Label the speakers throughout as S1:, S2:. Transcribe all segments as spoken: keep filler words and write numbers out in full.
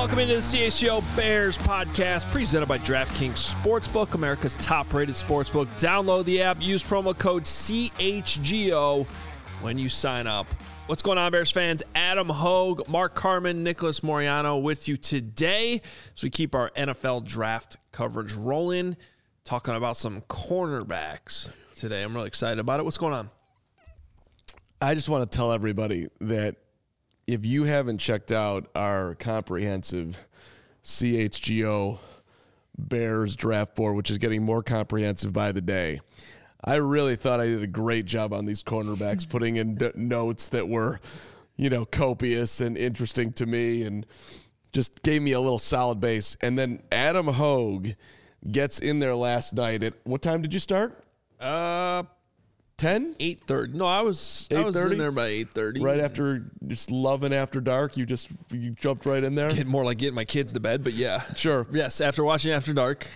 S1: Welcome into the C H G O Bears podcast presented by DraftKings Sportsbook, America's top-rated sportsbook. Download the app, use promo code C H G O when you sign up. What's going on, Bears fans? Adam Hogue, Mark Carman, Nicholas Moriano with you today as we keep our N F L draft coverage rolling, talking about some cornerbacks today. I'm really excited about it. What's going on?
S2: I just want to tell everybody that if you haven't checked out our comprehensive C H G O Bears draft board, which is getting more comprehensive by the day, I really thought I did a great job on these cornerbacks, putting in d- notes that were, you know, copious and interesting to me and just gave me a little solid base. And then Adam Hogue gets in there last night at, what time did you start?
S1: Uh,
S2: ten?
S1: eight thirty. No, I was I was in there by eight thirty.
S2: Right after just loving after dark, you just you jumped right in there?
S1: Getting more like getting my kids to bed, but yeah.
S2: Sure.
S1: Yes, after watching After Dark.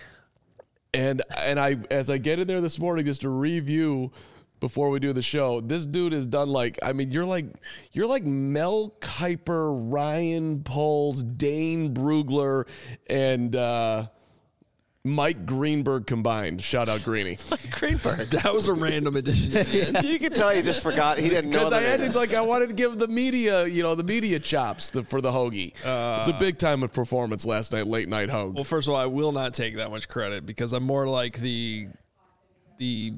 S2: And and I as I get in there this morning just to review before we do the show, this dude has done like I mean you're like you're like Mel Kiper, Ryan Poles, Dane Brugler, and uh Mike Greenberg combined. Shout out Greeny.
S3: Greenberg.
S1: That was a random addition.
S3: You could tell he just forgot. He didn't know
S2: Because I
S3: that.
S2: had to, like I wanted to give the media, you know, the media chops the, for the Hoagie. Uh, it's a big time of performance last night, late night Hogue.
S1: Well, first of all, I will not take that much credit because I'm more like the the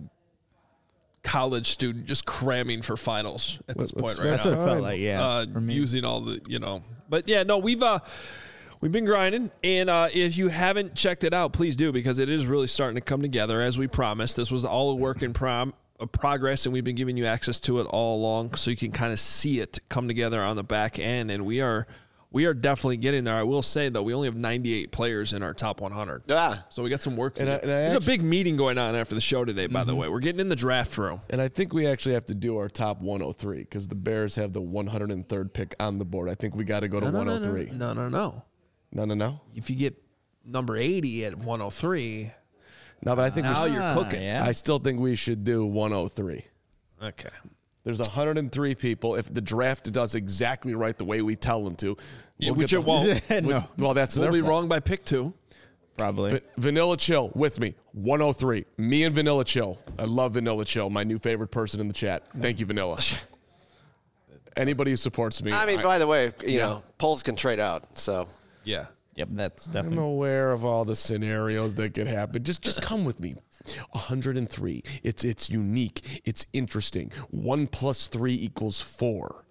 S1: college student just cramming for finals at this
S2: Well,
S1: point
S2: that's
S1: right
S4: That's
S1: now.
S4: what it felt like, yeah.
S1: Uh,
S4: for me.
S1: using all the, you know. But yeah, no, we've uh we've been grinding, and uh, if you haven't checked it out, please do because it is really starting to come together as we promised. This was all a work in prom. Of progress, and we've been giving you access to it all along, so you can kind of see it come together on the back end. And we are, we are definitely getting there. I will say though, we only have ninety-eight players in our top one hundred,
S3: Ah.
S1: so we got some work to
S2: And
S1: do.
S2: I- and I
S1: There's
S2: actually-
S1: a big meeting going on after the show today. By mm-hmm. the way, we're getting in the draft room.
S2: And I think we actually have to do our top one oh three because the Bears have the one hundred third pick on the board. I think we got to go to
S1: No, no,
S2: one oh three.
S1: No, no, no, no.
S2: No, no, no.
S1: If you get number eighty at one oh three,
S2: No, but I think we
S1: now
S2: should,
S1: you're cooking.
S4: yeah.
S2: I still think we should do one oh three.
S1: Okay.
S2: There's one hundred three people. If the draft does exactly right the way we tell them to,
S1: Yeah,
S2: we'll
S1: which
S2: get
S1: it
S2: the-
S1: won't.
S4: No,
S2: Well, that's
S1: We'll
S2: their
S1: be
S2: fault.
S1: wrong by pick two.
S4: probably.
S2: Va- Vanilla Chill with me, one oh three. Me and Vanilla Chill. I love Vanilla Chill, my new favorite person in the chat. Thank you, Vanilla. Anybody who supports me.
S3: I mean,
S2: I,
S3: by the way, you
S2: Yeah.
S3: know, polls can trade out. So
S1: Yeah.
S4: Yep, that's
S2: I'm
S4: definitely.
S2: aware of all the scenarios that could happen. Just just come with me. one hundred three. It's it's unique. It's interesting. One plus three equals four.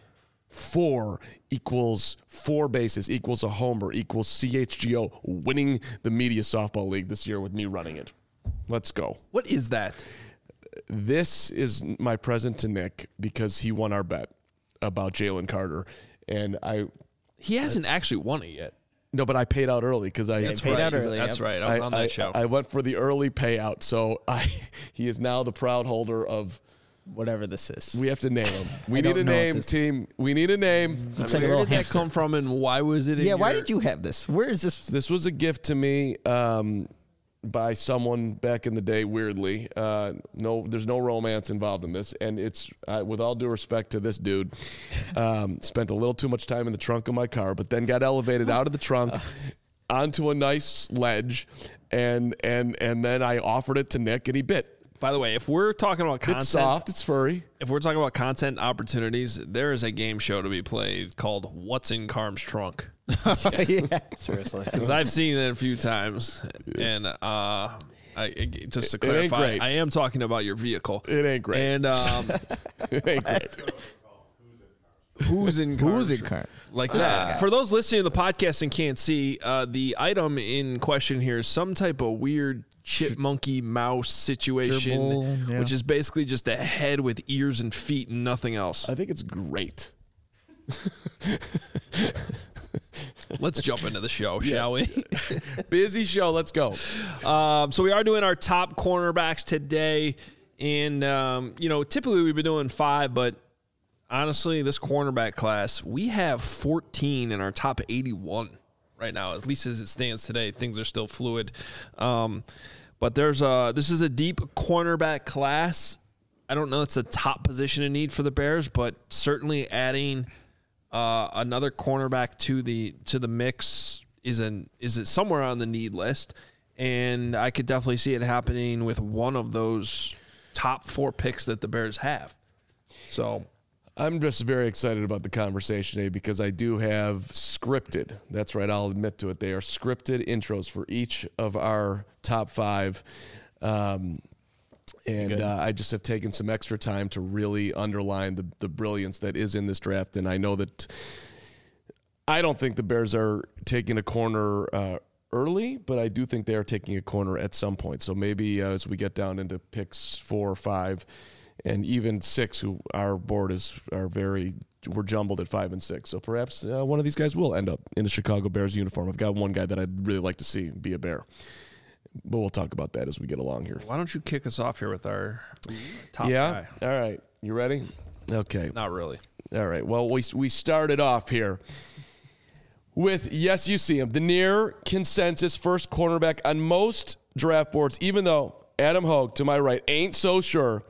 S2: Four equals four bases, equals a homer, equals C H G O winning the Media Softball League this year with me running it. Let's go.
S1: What is that?
S2: This is my present to Nick because he won our bet about Jalen Carter. And I,
S1: He hasn't actually won it yet.
S2: no, but I paid out early because I,
S1: That's
S4: paid
S1: right.
S4: out early,
S1: That's
S4: yep.
S1: right. I was on that
S2: I,
S1: show.
S2: I went for the early payout, so I he is now the proud holder of.
S4: Whatever this is.
S2: We have to name him. We
S4: I
S2: need
S4: don't
S2: a
S4: know what
S2: name,
S4: this-
S2: team. We need a name.
S4: Looks like a
S1: Where
S4: little
S1: did that
S4: hamster.
S1: come from, and why was it? In
S4: Yeah, why
S1: your-
S4: did you have this? Where is this?
S2: This was a gift to me um, by someone back in the day. Weirdly, uh, no, there's no romance involved in this, and it's uh, with all due respect to this dude. Um, spent a little too much time in the trunk of my car, but then got elevated out of the trunk onto a nice ledge, and and and then I offered it to Nick, and he bit.
S1: By the way, if we're talking about content,
S2: It's soft. It's furry.
S1: if we're talking about content opportunities, there is a game show to be played called "What's in Carm's Trunk."
S4: yeah.
S3: seriously,
S1: Because I've seen it a few times, and uh, I it- just to
S2: It ain't
S1: clarify,
S2: great.
S1: I am talking about your vehicle.
S2: It ain't great.
S1: And um,
S2: It ain't great.
S1: who's in Carm's
S4: Who's in
S1: Trunk?
S4: car?
S1: Like that. For those listening to the podcast and can't see, uh, the item in question here is some type of weird chipmunky mouse situation,
S4: Gerbil, yeah.
S1: which is basically just a head with ears and feet and nothing else.
S2: I think it's great.
S1: Let's jump into the show, shall we?
S2: Busy show. Let's go.
S1: Um, so we are doing our top cornerbacks today, and um, you know, typically we've been doing five, but honestly, this cornerback class, we have fourteen in our top eighty-one right now. At least as it stands today, things are still fluid. Um, but there's a this is a deep cornerback class. I don't know it's a top position in need for the Bears, but certainly adding Uh, another cornerback to the to the mix is an is it somewhere on the need list, and I could definitely see it happening with one of those top four picks that the Bears have. So
S2: I'm just very excited about the conversation today because I do have scripted. That's right, I'll admit to it. They are scripted intros for each of our top five. Um, and uh, I just have taken some extra time to really underline the, the brilliance that is in this draft. And I know that I don't think the Bears are taking a corner uh, early, but I do think they are taking a corner at some point. So maybe uh, as we get down into picks four or five, and even six, who our board is are very we're jumbled at five and six. So perhaps uh, one of these guys will end up in a Chicago Bears uniform. I've got one guy that I'd really like to see be a Bear, but we'll talk about that as we get along here.
S1: why don't you kick us off here with our top
S2: Yeah.
S1: guy?
S2: All right. You ready? Okay.
S1: Not really.
S2: All right. Well, we we started off here with, yes, you see him, the near consensus first cornerback on most draft boards, even though Adam Hogue, to my right, ain't so sure.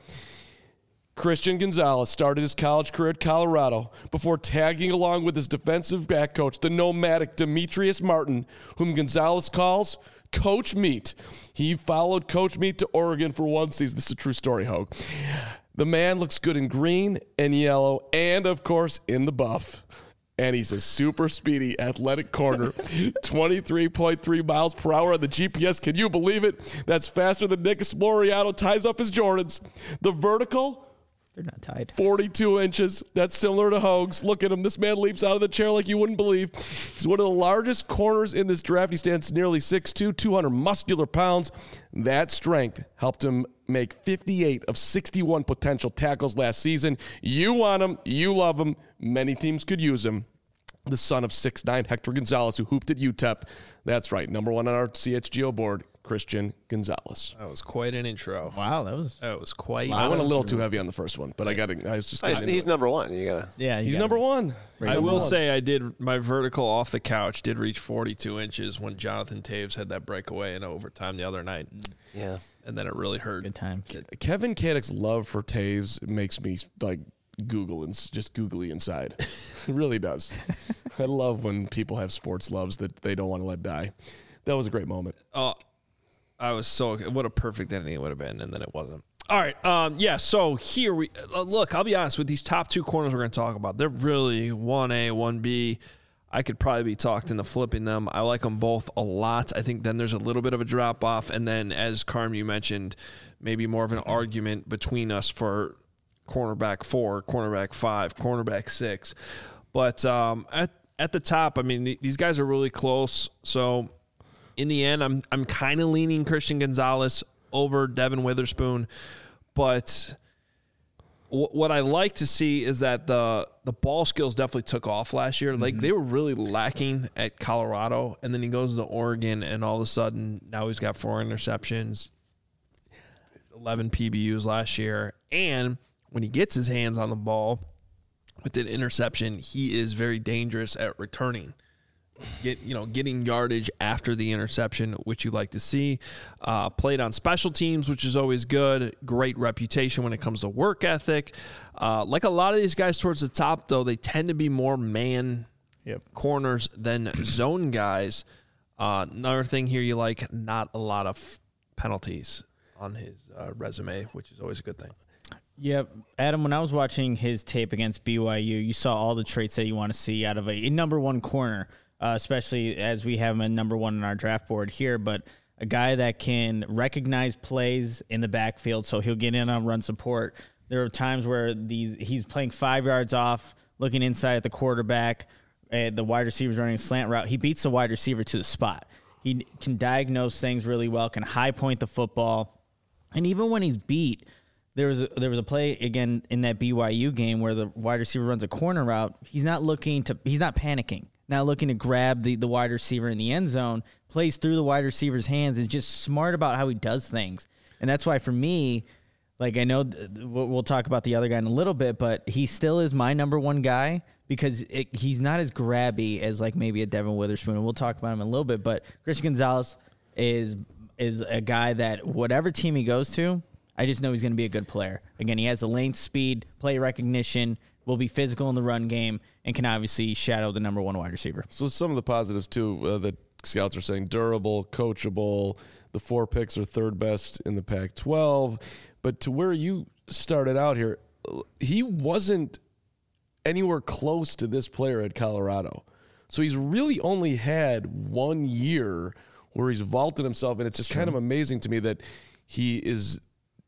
S2: Christian Gonzalez started his college career at Colorado before tagging along with his defensive back coach, the nomadic Demetrius Martin, whom Gonzalez calls Coach Meat. He followed Coach Meat to Oregon for one season. This is a true story, Hogue. The man looks good in green and yellow and, of course, in the buff. And he's a super speedy, athletic corner. twenty-three point three miles per hour on the G P S. Can you believe it? That's faster than Nick Esploriano ties up his Jordans. The vertical,
S4: They're not tied.
S2: forty-two inches. That's similar to Hogue's. Look at him. This man leaps out of the chair like you wouldn't believe. He's one of the largest corners in this draft. He stands nearly six two, two hundred muscular pounds. That strength helped him make fifty-eight of sixty-one potential tackles last season. You want him. You love him. Many teams could use him. The son of six nine Hector Gonzalez, who hooped at U T E P. That's right. Number one on our C H G O board, Christian Gonzalez.
S1: That was quite an intro.
S4: Wow, that was.
S1: That was quite.
S2: I went a little too heavy on the first one, but I got I was just.
S3: He's,
S2: getting into
S3: he's
S2: it.
S3: number one. You gotta.
S4: Yeah, you
S2: He's
S4: got
S2: number
S4: it.
S2: one.
S1: I will say I did my vertical off the couch did reach forty-two inches when Jonathan Taves had that breakaway in overtime the other night,
S3: Yeah.
S1: and then it really hurt.
S4: Good time.
S2: Kevin Kadek's love for Taves makes me like Google and s- just googly inside. It really does. I love when people have sports loves that they don't want to let die. That was a great moment.
S1: Oh, I was so what a perfect ending it would have been, and then it wasn't. All right, um, yeah. So here we uh, look. I'll be honest with these top two corners we're going to talk about. They're really one A, one B. I could probably be talked into flipping them. I like them both a lot. I think then there's a little bit of a drop off, and then as Carm you mentioned, maybe more of an argument between us for cornerback four, cornerback five, cornerback six. But um, at at the top, I mean, th- these guys are really close. So in the end, I'm I'm kind of leaning Christian Gonzalez over Devin Witherspoon. But w- what I like to see is that the the ball skills definitely took off last year. Like, they were really lacking at Colorado, and then he goes to Oregon, and all of a sudden now he's got four interceptions, eleven P B Us last year, and when he gets his hands on the ball with an interception, he is very dangerous at returning. Get you know, getting yardage after the interception, which you like to see. Uh, played on special teams, which is always good. Great reputation when it comes to work ethic. Uh, like a lot of these guys towards the top, though, they tend to be more man
S4: Yep.
S1: corners than zone guys. Uh, another thing here you like, not a lot of penalties on his uh, resume, which is always a good thing.
S4: Yep. Adam, when I was watching his tape against B Y U, you saw all the traits that you want to see out of a, a number one corner, uh, especially as we have him at number one on our draft board here. But a guy that can recognize plays in the backfield, so he'll get in on run support. There are times where these he's playing five yards off, looking inside at the quarterback, uh, the wide receiver's running a slant route. He beats the wide receiver to the spot. He can diagnose things really well, can high point the football. And even when he's beat, There was a, there was a play again in that B Y U game where the wide receiver runs a corner route. He's not looking to he's not panicking, not looking to grab the, the wide receiver in the end zone. Plays through the wide receiver's hands. Is just smart about how he does things, and that's why for me, like I know th- we'll talk about the other guy in a little bit, but he still is my number one guy because it, he's not as grabby as like maybe a Devin Witherspoon, and we'll talk about him in a little bit. But Christian Gonzalez is is a guy that whatever team he goes to, I just know he's going to be a good player. Again, he has the lane, speed, play recognition, will be physical in the run game, and can obviously shadow the number one wide receiver.
S2: So some of the positives, too, uh, that scouts are saying: durable, coachable. The four picks are third best in the Pac twelve. But to where you started out here, he wasn't anywhere close to this player at Colorado. So he's really only had one year where he's vaulted himself, and it's just kind of amazing to me that he is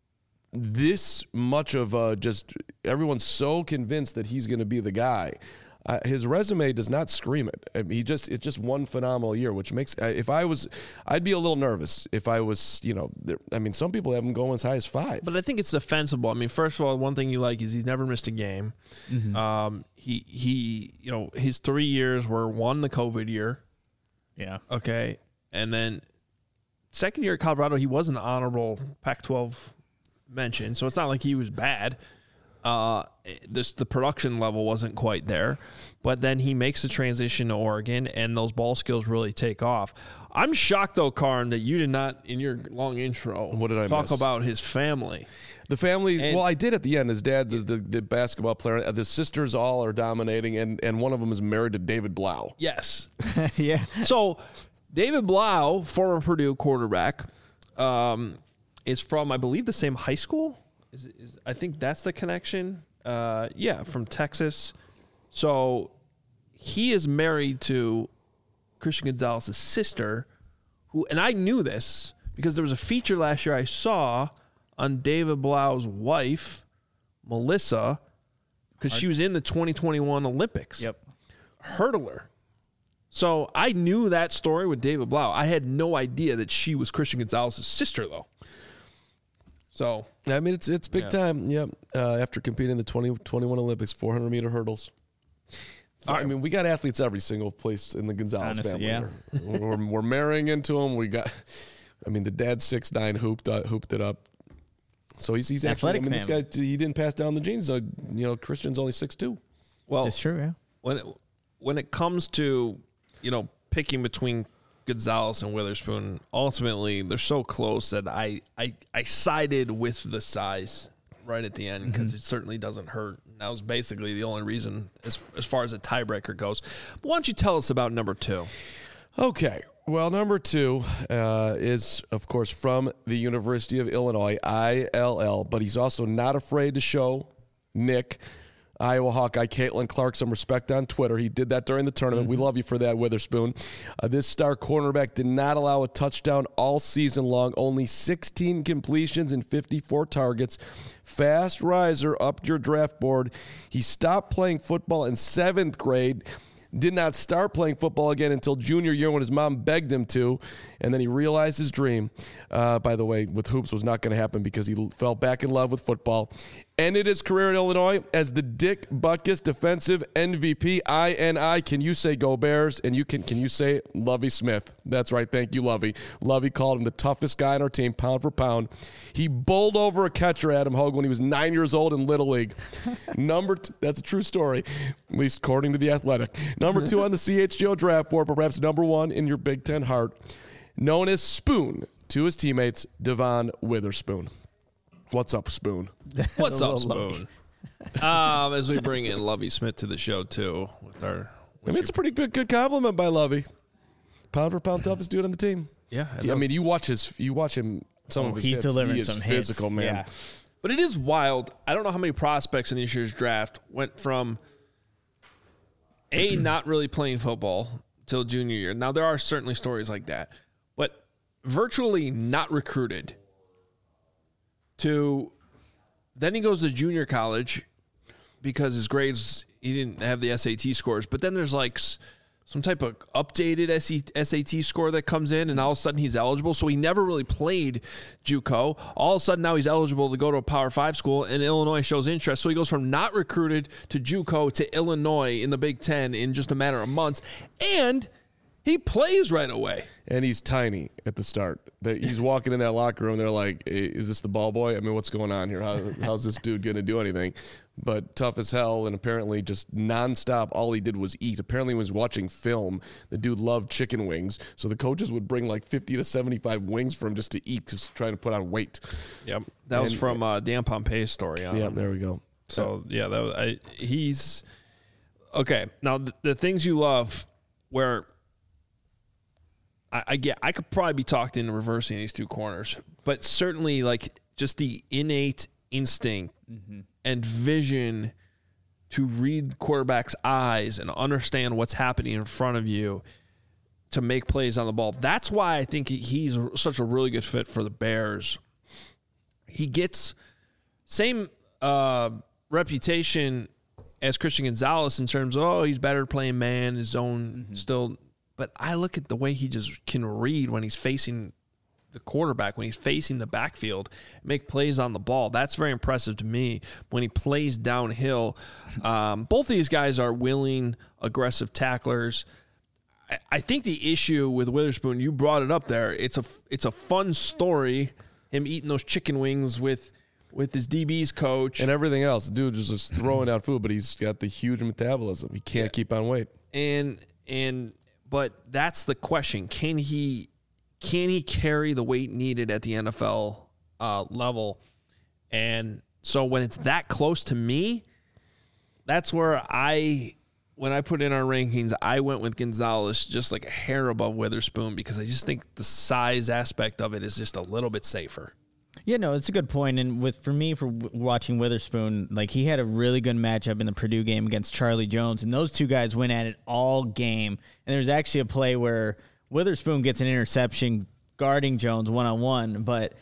S2: this much of a just everyone's so convinced that he's going to be the guy. Uh, his resume does not scream it. I mean, he just it's just one phenomenal year, which makes if I was, I'd be a little nervous if I was, you know, there, I mean, some people have him going as high as five.
S1: But I think it's defensible. I mean, first of all, one thing you like is he's never missed a game. Mm-hmm. Um, he he, you know, his three years were one the COVID year.
S4: Yeah.
S1: Okay, and then second year at Colorado, he was an honorable Pac twelve mention, so it's not like he was bad. Uh, this the production level wasn't quite there, but then he makes the transition to Oregon, and those ball skills really take off. I'm shocked, though, Karn, that you did not, in your long intro,
S2: what did I
S1: talk
S2: miss?
S1: about his family.
S2: The family,
S1: And-
S2: well, I did at the end. His dad, the, the, the basketball player, the sisters all are dominating, and, and one of them is married to David Blau.
S1: Yes.
S4: Yeah.
S1: So David Blau, former Purdue quarterback, um, is from, I believe, the same high school. Is, is I think that's the connection. Uh, yeah, from Texas. So he is married to Christian Gonzalez's sister, who, and I knew this because there was a feature last year I saw on David Blau's wife, Melissa, because she was in the twenty twenty-one Olympics.
S4: Yep.
S1: Hurdler. So I knew that story with David Blau. I had no idea that she was Christian Gonzalez's sister, though. So
S2: I mean, it's it's big
S1: Yeah.
S2: time. Yeah. Uh, after competing in the twenty twenty-one Olympics, four hundred meter hurdles. So, I mean, we got athletes every single place in the Gonzalez
S4: Honestly,
S2: family.
S4: yeah.
S2: We're, we're, we're marrying into them. We got, I mean, the dad six nine hooped uh, hooped it up. So he's he's actually. I
S4: Athletic
S2: mean, this
S4: family.
S2: guy he didn't pass down the genes. So, you know, Christian's only six two.
S1: well,
S4: That's true, yeah.
S1: when it, when it comes to, you know, picking between Gonzalez and Witherspoon, ultimately they're so close that I I, I sided with the size right at the end because
S2: Mm-hmm.
S1: it certainly doesn't hurt. And that was basically the only reason as as far as a tiebreaker goes. But why don't you tell us about number two?
S2: Okay. Well, number two uh, is, of course, from the University of Illinois, I L L, but he's also not afraid to show Nick, Iowa Hawkeye, Caitlin Clark, some respect on Twitter. He did that during the tournament. We love you for that, Witherspoon. Uh, this star cornerback did not allow a touchdown all season long, only sixteen completions and fifty-four targets. Fast riser up your draft board. He stopped playing football in seventh grade. Did not start playing football again until junior year when his mom begged him to, and then he realized his dream. Uh, by the way, with hoops was not going to happen because he fell back in love with football. Ended his career at Illinois as the Dick Butkus Defensive M V P. I N I. Can you say Go Bears? And you can can you say Lovie Smith? That's right. Thank you, Lovie. Lovie called him the toughest guy on our team, pound for pound. He bowled over a catcher, Adam Hogue, when he was nine years old in Little League. Number two, that's a true story, at least according to The Athletic. Number two on the C H G O draft board, but perhaps number one in your Big Ten heart, known as Spoon to his teammates, Devon Witherspoon. What's up, Spoon?
S1: What's up,
S4: Lovey.
S1: Spoon? um, as we bring in Lovie Smith to the show too, with our,
S2: I mean, it's a pretty good, good compliment by Lovey. Pound for pound, toughest dude on the team.
S1: yeah.
S2: I mean, you watch his, you watch him. Some
S4: Oh,
S2: of his
S4: he's
S2: hits.
S4: delivering
S2: he is
S4: some
S2: physical,
S4: hits.
S2: man.
S4: Yeah.
S1: But it is wild. I don't know how many prospects in this year's draft went from A, not really playing football till junior year. Now, there are certainly stories like that, but virtually not recruited to then he goes to junior college because his grades, he didn't have the S A T scores. But then there's like s- some type of updated S A T score that comes in, and all of a sudden he's eligible. So he never really played JUCO. All of a sudden now he's eligible to go to a Power Five school, and Illinois shows interest. So he goes from not recruited to JUCO to Illinois in the Big Ten in just a matter of months, and he plays right away.
S2: And he's tiny at the start. They, he's walking in that locker room. They're like, "Hey, is this the ball boy? I mean, what's going on here? How, how's this dude going to do anything?" But tough as hell, and apparently just nonstop. All he did was eat. Apparently, he was watching film. The dude loved chicken wings, so the coaches would bring like fifty to seventy-five wings for him just to eat, just trying to put on weight.
S1: Yep, that was
S2: And-
S1: from uh, Dan Pompeii's story. On
S2: Yeah,
S1: him.
S2: there we go.
S1: So yeah, that was, I, he's okay. Now the, the things you love, where I, I get, I could probably be talked into reversing these two corners, but certainly like just the innate instinct mm-hmm. and vision to read quarterback's eyes and understand what's happening in front of you to make plays on the ball. That's why I think he's such a really good fit for the Bears. He gets same uh, reputation as Christian Gonzalez in terms of, oh, he's better playing man, his own mm-hmm. still. But I look at the way he just can read when he's facing the quarterback, when he's facing the backfield, make plays on the ball. That's very impressive to me. When he plays downhill, um, both of these guys are willing, aggressive tacklers. I, I think the issue with Witherspoon, you brought it up there. It's a it's a fun story, him eating those chicken wings with with his D B's coach
S2: and everything else. The dude is just throwing out food, but he's got the huge metabolism. He can't yeah. keep on weight.
S1: And and but that's the question: Can he? Can he carry the weight needed at the N F L uh, level? And so when it's that close to me, that's where I, when I put in our rankings, I went with Gonzalez just like a hair above Witherspoon because I just think the size aspect of it is just a little bit safer.
S4: Yeah, no, it's a good point. And with for me, for w- watching Witherspoon, like he had a really good matchup in the Purdue game against Charlie Jones, and those two guys went at it all game. And there's actually a play where Witherspoon gets an interception guarding Jones one-on-one, but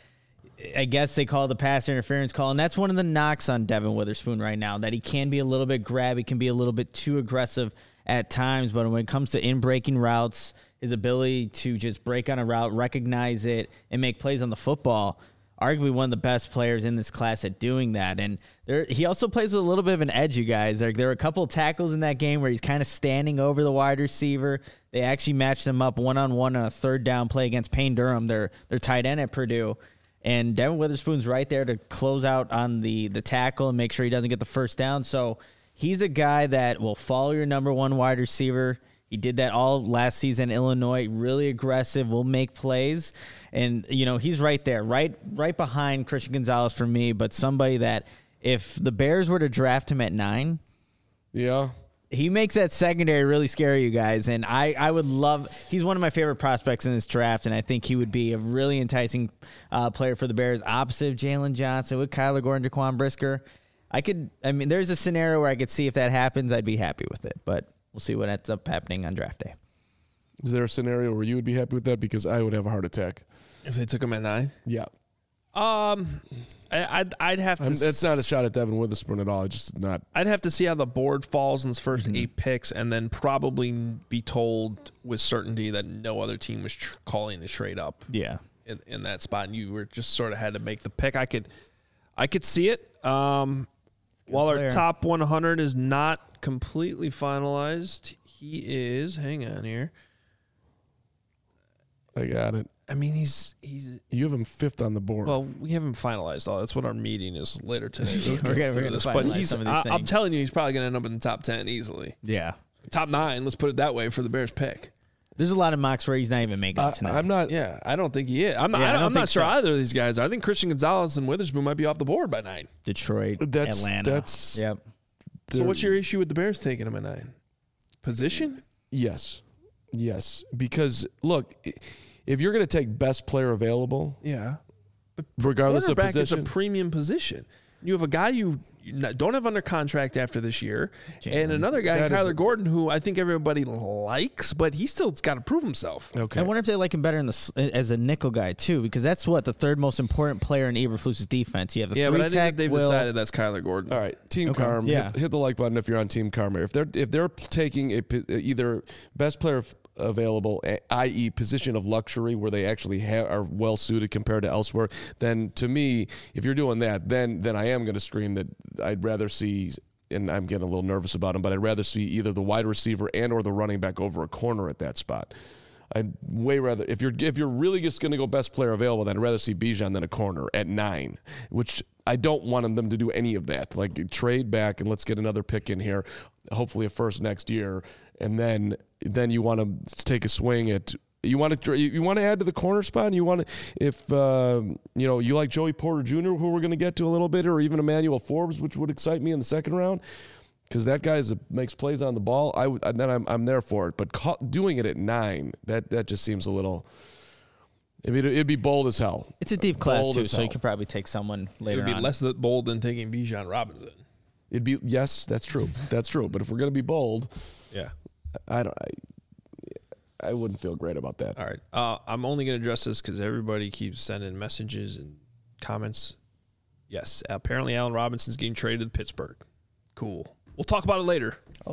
S4: I guess they call the pass interference call, and that's one of the knocks on Devin Witherspoon right now, that he can be a little bit grabby, can be a little bit too aggressive at times, but when it comes to in-breaking routes, his ability to just break on a route, recognize it, and make plays on the football, arguably one of the best players in this class at doing that. And there, he also plays with a little bit of an edge, you guys. There, there are a couple of tackles in that game where he's kind of standing over the wide receiver. They actually matched him up one-on-one on a third down play against Payne Durham, their, their tight end at Purdue. And Devin Witherspoon's right there to close out on the, the tackle and make sure he doesn't get the first down. So he's a guy that will follow your number one wide receiver. He did that all last season in Illinois, really aggressive, will make plays. And, you know, he's right there, right right behind Christian Gonzalez for me, but somebody that if the Bears were to draft him at nine,
S2: yeah,
S4: he makes that secondary really scary, you guys. And I, I would love – he's one of my favorite prospects in this draft, and I think he would be a really enticing uh, player for the Bears, opposite of Jalen Johnson with Kyler Gordon, Jaquan Brisker. I could – I mean, there's a scenario where I could see if that happens, I'd be happy with it. But we'll see what ends up happening on draft day.
S2: Is there a scenario where you would be happy with that? Because I would have a heart attack.
S1: If they took him at nine?
S2: Yeah.
S1: Um, I, I'd I'd have to.
S2: I'm, that's not a shot at Devin Witherspoon at all. It's just not.
S1: I'd have to see how the board falls in the first
S2: mm-hmm.
S1: eight picks, and then probably be told with certainty that no other team was tr- calling the trade up.
S4: Yeah.
S1: In, in that spot, and you were just sort of had to make the pick. I could, I could see it. Um, while player. Our top one hundred is not completely finalized, he is. Hang on here.
S2: I got it.
S1: I mean, he's he's.
S2: You have him fifth on the board.
S1: Well, we haven't finalized all. That's what our meeting is later today.
S4: we're gonna, we're gonna finalize
S1: but he's.
S4: some of these
S1: I,
S4: things.
S1: I'm telling you, he's probably going to end up in the top ten easily.
S4: Yeah,
S1: top nine. Let's put it that way for the Bears pick.
S4: There's a lot of mocks where he's not even making
S2: uh,
S4: it tonight.
S2: I'm not.
S1: Yeah, I don't think he is. I'm not.
S4: Yeah,
S1: I don't,
S4: I
S1: I'm
S4: don't
S1: not sure
S4: so.
S1: either of these guys. I think Christian Gonzalez and Witherspoon might be off the board by nine.
S4: Detroit,
S2: that's,
S4: Atlanta.
S2: That's.
S4: Yep.
S1: So what's your issue with the Bears taking him at nine? Position?
S2: Yes, yes. Because look. If you're going to take best player available,
S1: yeah, but
S2: regardless of position,
S1: is a premium position. You have a guy you don't have under contract after this year, Jalen. And another guy, that Kyler Gordon, who I think everybody likes, but he still's got to prove himself.
S4: Okay. I wonder if they like him better in the, as a nickel guy too, because that's what the third most important player in Eberflus's defense. You have the
S1: yeah,
S4: three
S1: but I think they've
S4: Will.
S1: decided that's Kyler Gordon.
S2: All right, Team
S4: okay.
S2: Carm,
S4: yeah.
S2: hit, hit the like button if you're on Team Carm. If they're if they're taking a either best player available, that is position of luxury where they actually ha- are well suited compared to elsewhere, then to me, if you're doing that, then then I am going to scream that I'd rather see, and I'm getting a little nervous about him, but I'd rather see either the wide receiver and or the running back over a corner at that spot. I'd way rather, if you're if you're really just going to go best player available, then I'd rather see Bijan than a corner at nine, which I don't want them to do any of that. Like trade back and let's get another pick in here, hopefully a first next year, and then then you want to take a swing at You want to you want to add to the corner spot. And you want to if uh, you know you like Joey Porter Junior, who we're going to get to a little bit, or even Emmanuel Forbes, which would excite me in the second round, because that guy makes plays on the ball. I would, and then I'm I'm there for it. But ca- doing it at nine, that that just seems a little. It'd be, it'd be bold as hell.
S4: It's a deep class
S2: Bold
S4: too,
S2: as
S4: so
S2: hell.
S4: you could probably take someone
S1: It
S4: later
S1: would be
S4: on.
S1: less bold than taking Bijan Robinson.
S2: It'd be yes, that's true. That's true. But if we're gonna be bold,
S1: Yeah.
S2: I don't. I, I wouldn't feel great about that.
S1: All right. Uh, I'm only going to address this because everybody keeps sending messages and comments. Yes. Apparently, Allen Robinson's getting traded to Pittsburgh. Cool. We'll talk about it later. Oh.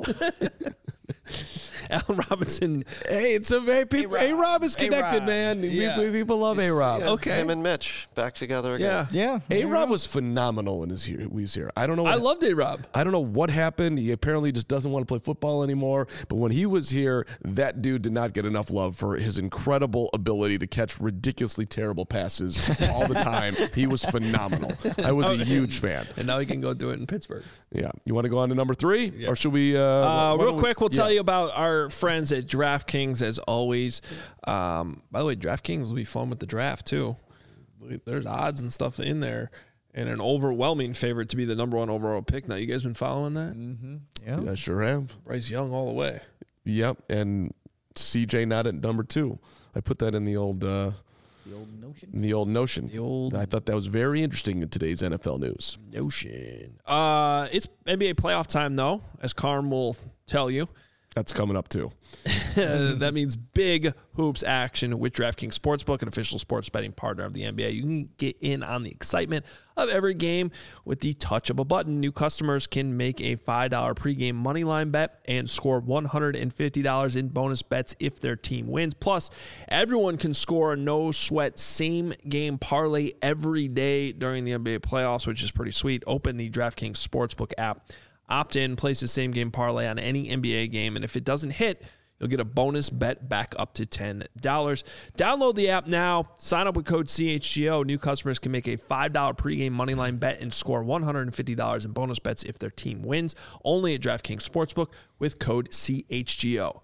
S1: Allen Robinson.
S2: Hey, it's a hey, people. A Rob is connected,
S4: A-Rob.
S2: man.
S1: Yeah.
S2: We, people love A Rob.
S3: Yeah,
S1: Okay.
S3: Him and Mitch back together again.
S1: Yeah.
S4: Yeah.
S2: A Rob was phenomenal when his here. He was here. I don't know. What,
S1: I loved A-Rob.
S2: I don't know what happened. He apparently just doesn't want to play football anymore. But when he was here, that dude did not get enough love for his incredible ability to catch ridiculously terrible passes all the time. He was phenomenal. I was a huge fan.
S1: And now he can go do it in Pittsburgh.
S2: Yeah. You want to go on to number three, or should we? Uh,
S1: Uh,
S2: why
S1: real
S2: don't we-
S1: quick, we'll tell
S2: yeah.
S1: you about our friends at DraftKings as always. Um, by the way, DraftKings will be fun with the draft too. There's odds and stuff in there, and an overwhelming favorite to be the number one overall pick. Now, you guys been following that?
S4: Mm-hmm. Yeah.
S2: Yeah, I sure have.
S1: Bryce Young all the way.
S2: Yep, and C J not at number two. I put that in the old uh,
S4: The old notion.
S2: in the old notion.
S1: The old
S2: I thought that was very interesting in today's N F L news.
S1: notion. Uh, it's N B A playoff time though, as Carm will tell you.
S2: That's coming up too.
S1: That means big hoops action with DraftKings Sportsbook, an official sports betting partner of the N B A. You can get in on the excitement of every game with the touch of a button. New customers can make a five dollars pregame moneyline bet and score one hundred fifty dollars in bonus bets if their team wins. Plus, everyone can score a no-sweat same-game parlay every day during the N B A playoffs, which is pretty sweet. Open the DraftKings Sportsbook app. Opt in, place the same game parlay on any N B A game, and if it doesn't hit, you'll get a bonus bet back up to ten dollars. Download the app now. Sign up with code C H G O. New customers can make a five dollars pregame moneyline bet and score one hundred fifty dollars in bonus bets if their team wins. Only at DraftKings Sportsbook with code C H G O.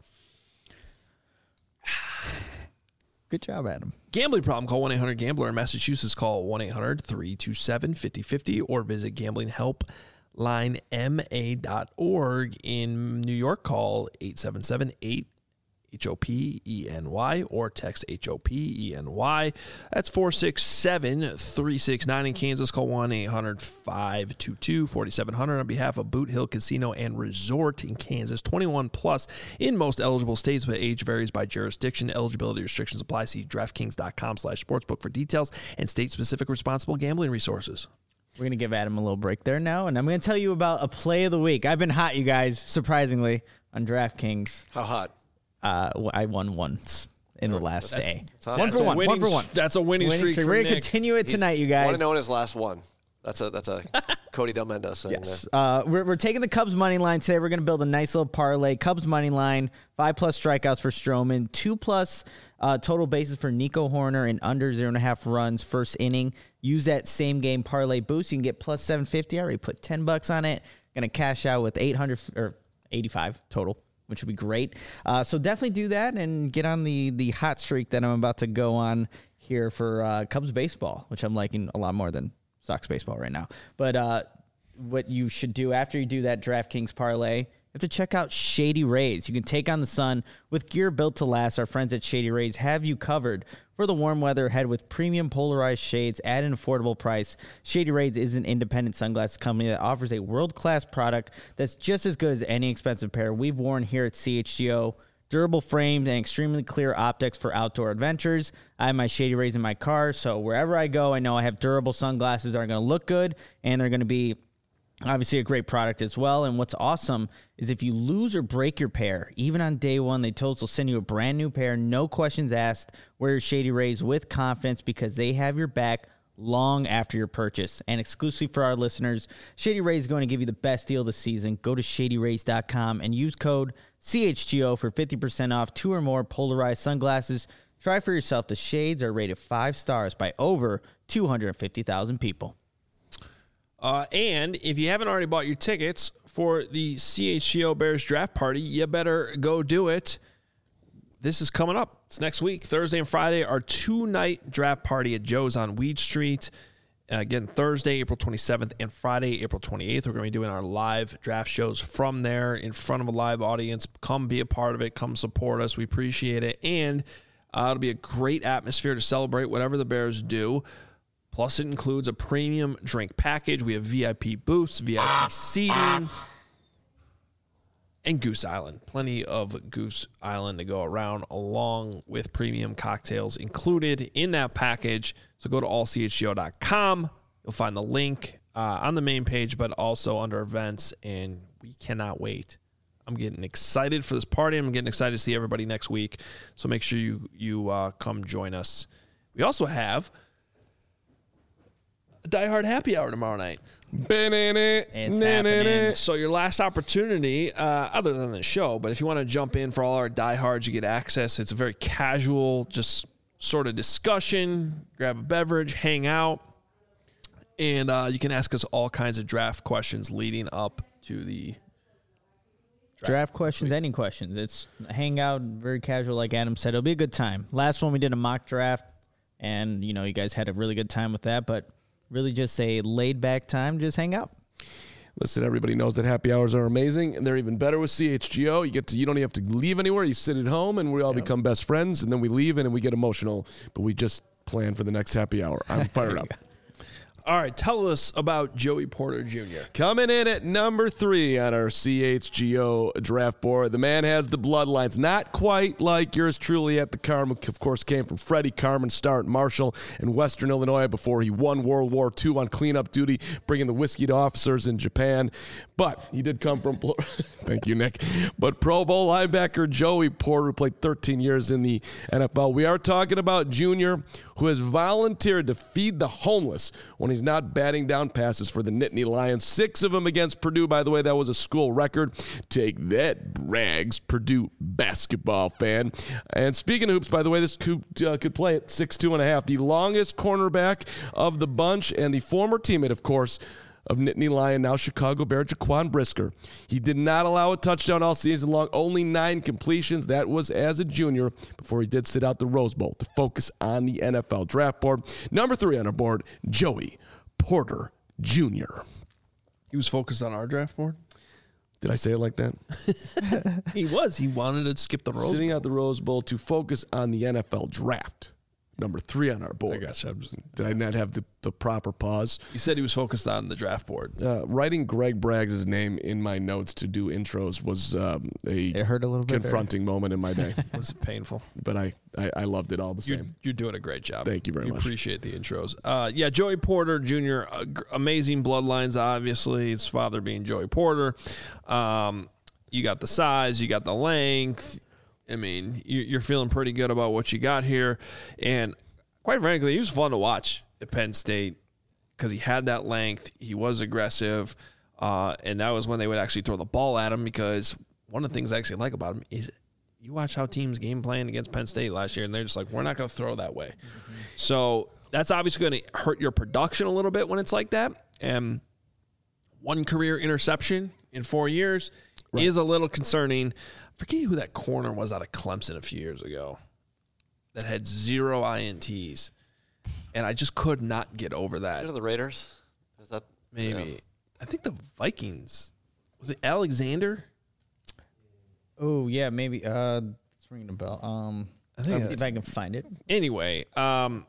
S4: Good job, Adam.
S1: Gambling problem? Call one eight hundred gambler. In Massachusetts, call one eight hundred three two seven five zero five zero or visit gambling help line M A dot org. In New York, call eight seven seven eight H O P E N Y or text H O P E N Y. That's four six seven three six nine. In Kansas, call one eight hundred five two two four seven zero zero on behalf of Boot Hill Casino and Resort in Kansas. twenty-one plus in most eligible states, but age varies by jurisdiction. Eligibility restrictions apply. See DraftKings.com slash sportsbook for details and state-specific responsible gambling resources.
S4: We're going to give Adam a little break there now, and I'm going to tell you about a play of the week. I've been hot, you guys, surprisingly, on DraftKings.
S3: How hot?
S4: Uh, I won once in the last day.
S3: that's hot.
S4: One
S1: That's
S4: for
S1: a
S4: one.
S1: winning
S4: One for one.
S1: s- That's a winning,
S4: Winning
S1: streak,
S4: streak.
S1: for
S4: We're going to
S1: Nick.
S4: continue it
S3: He's-
S4: tonight, you
S3: Want
S4: guys.
S3: to know his last one? That's a that's a Cody Del Mendes.
S4: Yes. Uh, we're, we're taking the Cubs money line today. We're going to build a nice little parlay. Cubs money line, five plus strikeouts for Stroman, two plus uh, total bases for Nico Horner, and under zero and a half runs first inning. Use that same game parlay boost. You can get plus seven fifty. I already put ten bucks on it. Going to cash out with eight hundred or eighty-five total, which would be great. Uh, so definitely do that and get on the the hot streak that I'm about to go on here for uh, Cubs baseball, which I'm liking a lot more than Sox baseball right now. But uh, what you should do after you do that DraftKings parlay, you have to check out Shady Rays. You can take on the sun with gear built to last. Our friends at Shady Rays have you covered for the warm weather. Head with premium polarized shades at an affordable price. Shady Rays is an independent sunglasses company that offers a world-class product that's just as good as any expensive pair we've worn here at C H G O. Durable frames and extremely clear optics for outdoor adventures. I have my Shady Rays in my car, so wherever I go, I know I have durable sunglasses that are going to look good, and they're going to be obviously a great product as well. And what's awesome is if you lose or break your pair, even on day one, they told us they'll send you a brand new pair, no questions asked. Wear your Shady Rays with confidence because they have your back long after your purchase. And exclusively for our listeners, Shady Rays is going to give you the best deal of the season. Go to shady rays dot com and use code C H G O for fifty percent off two or more polarized sunglasses. Try for yourself. The shades are rated five stars by over two hundred fifty thousand people.
S1: Uh, and if you haven't already bought your tickets for the C H G O Bears draft party, you better go do it. this is coming up. It's next week. Thursday and Friday, our two-night draft party at Joe's on Weed Street. Uh, again, Thursday, April twenty-seventh, and Friday, April twenty-eighth. We're going to be doing our live draft shows from there in front of a live audience. Come be a part of it. Come support us. We appreciate it. And uh, it'll be a great atmosphere to celebrate whatever the Bears do. Plus, it includes a premium drink package. We have V I P booths, V I P seating, and Goose Island. Plenty of Goose Island to go around, along with premium cocktails included in that package. So go to all c h g o dot com. You'll find the link uh, on the main page, but also under events, and we cannot wait. I'm getting excited for this party. I'm getting excited to see everybody next week. So make sure you, you uh, come join us. We also have a Die Hard Happy Hour tomorrow night.
S4: It's happening.
S1: So your last opportunity, uh, other than the show, but if you want to jump in for all our diehards, you get access. It's a very casual, just sort of discussion. Grab a beverage, hang out, and uh, you can ask us all kinds of draft questions leading up to the
S4: draft, draft questions, any questions. It's hang out, very casual, like Adam said. It'll be a good time. Last one we did a mock draft, and you know you guys had a really good time with that, but really just a laid-back time, just hang out.
S2: Listen, everybody knows that happy hours are amazing, and they're even better with C H G O. You get to, you don't even have to leave anywhere. You sit at home, and we all yep. become best friends, and then we leave, and then we get emotional. But we just plan for the next happy hour. I'm fired up.
S1: All right, tell us about Joey Porter Junior
S2: Coming in at number three on our C H G O draft board. The man has the bloodlines, not quite like yours truly at the Carmen. Of course, came from Freddie Carmen, star at Marshall in Western Illinois before he won World War Two on cleanup duty, bringing the whiskey to officers in Japan. But he did come from, thank you, Nick, but Pro Bowl linebacker Joey Porter, who played thirteen years in the N F L. We are talking about Junior, who has volunteered to feed the homeless when he's not batting down passes for the Nittany Lions. Six of them against Purdue, by the way. That was a school record. Take that, Brags, Purdue basketball fan. And speaking of hoops, by the way, this could, uh, could play at six two and a half. The longest cornerback of the bunch and the former teammate, of course, of Nittany Lion, now Chicago Bear, Jaquan Brisker. He did not allow a touchdown all season long, only nine completions. That was as a junior before he did sit out the Rose Bowl to focus on the N F L draft board. Number three on our board, Joey Porter Junior
S1: He was focused on our draft board?
S2: Did I say it like that?
S1: He was. He wanted to skip the Rose
S2: Sitting
S1: Bowl.
S2: out the Rose Bowl to focus on the N F L draft. Number three on our board.
S1: I guess I was,
S2: Did I not have the, the proper pause?
S1: You said he was focused on the draft board.
S2: Uh, writing Greg Braggs' name in my notes to do intros was um, a
S4: It hurt a little bit.
S2: confronting moment in my day.
S1: Was it painful?
S2: But I, I, I loved it all the
S1: You're,
S2: same.
S1: you're doing a great job.
S2: Thank you very
S1: we
S2: much.
S1: Appreciate the intros. Uh, yeah, Joey Porter Junior, uh, g- amazing bloodlines, obviously. His father being Joey Porter. Um, you got the size, you got the length. I mean, you- you're feeling pretty good about what you got here. And quite frankly, he was fun to watch at Penn State because he had that length. He was aggressive. Uh, and that was when they would actually throw the ball at him, because one of the things I actually like about him is you watch how teams game plan against Penn State last year, and they're just like, we're not going to throw that way. Mm-hmm. So that's obviously going to hurt your production a little bit when it's like that. And one career interception in four years right. is a little concerning. I forget who that corner was out of Clemson a few years ago that had zero I N Ts, and I just could not get over that.
S3: You know the Raiders? Is that
S1: maybe?
S3: Yeah.
S1: I think the Vikings. Was it Alexander?
S4: Oh yeah, maybe. Uh, it's ringing a bell. Um,
S1: I think
S4: if I can find it.
S1: Anyway, um,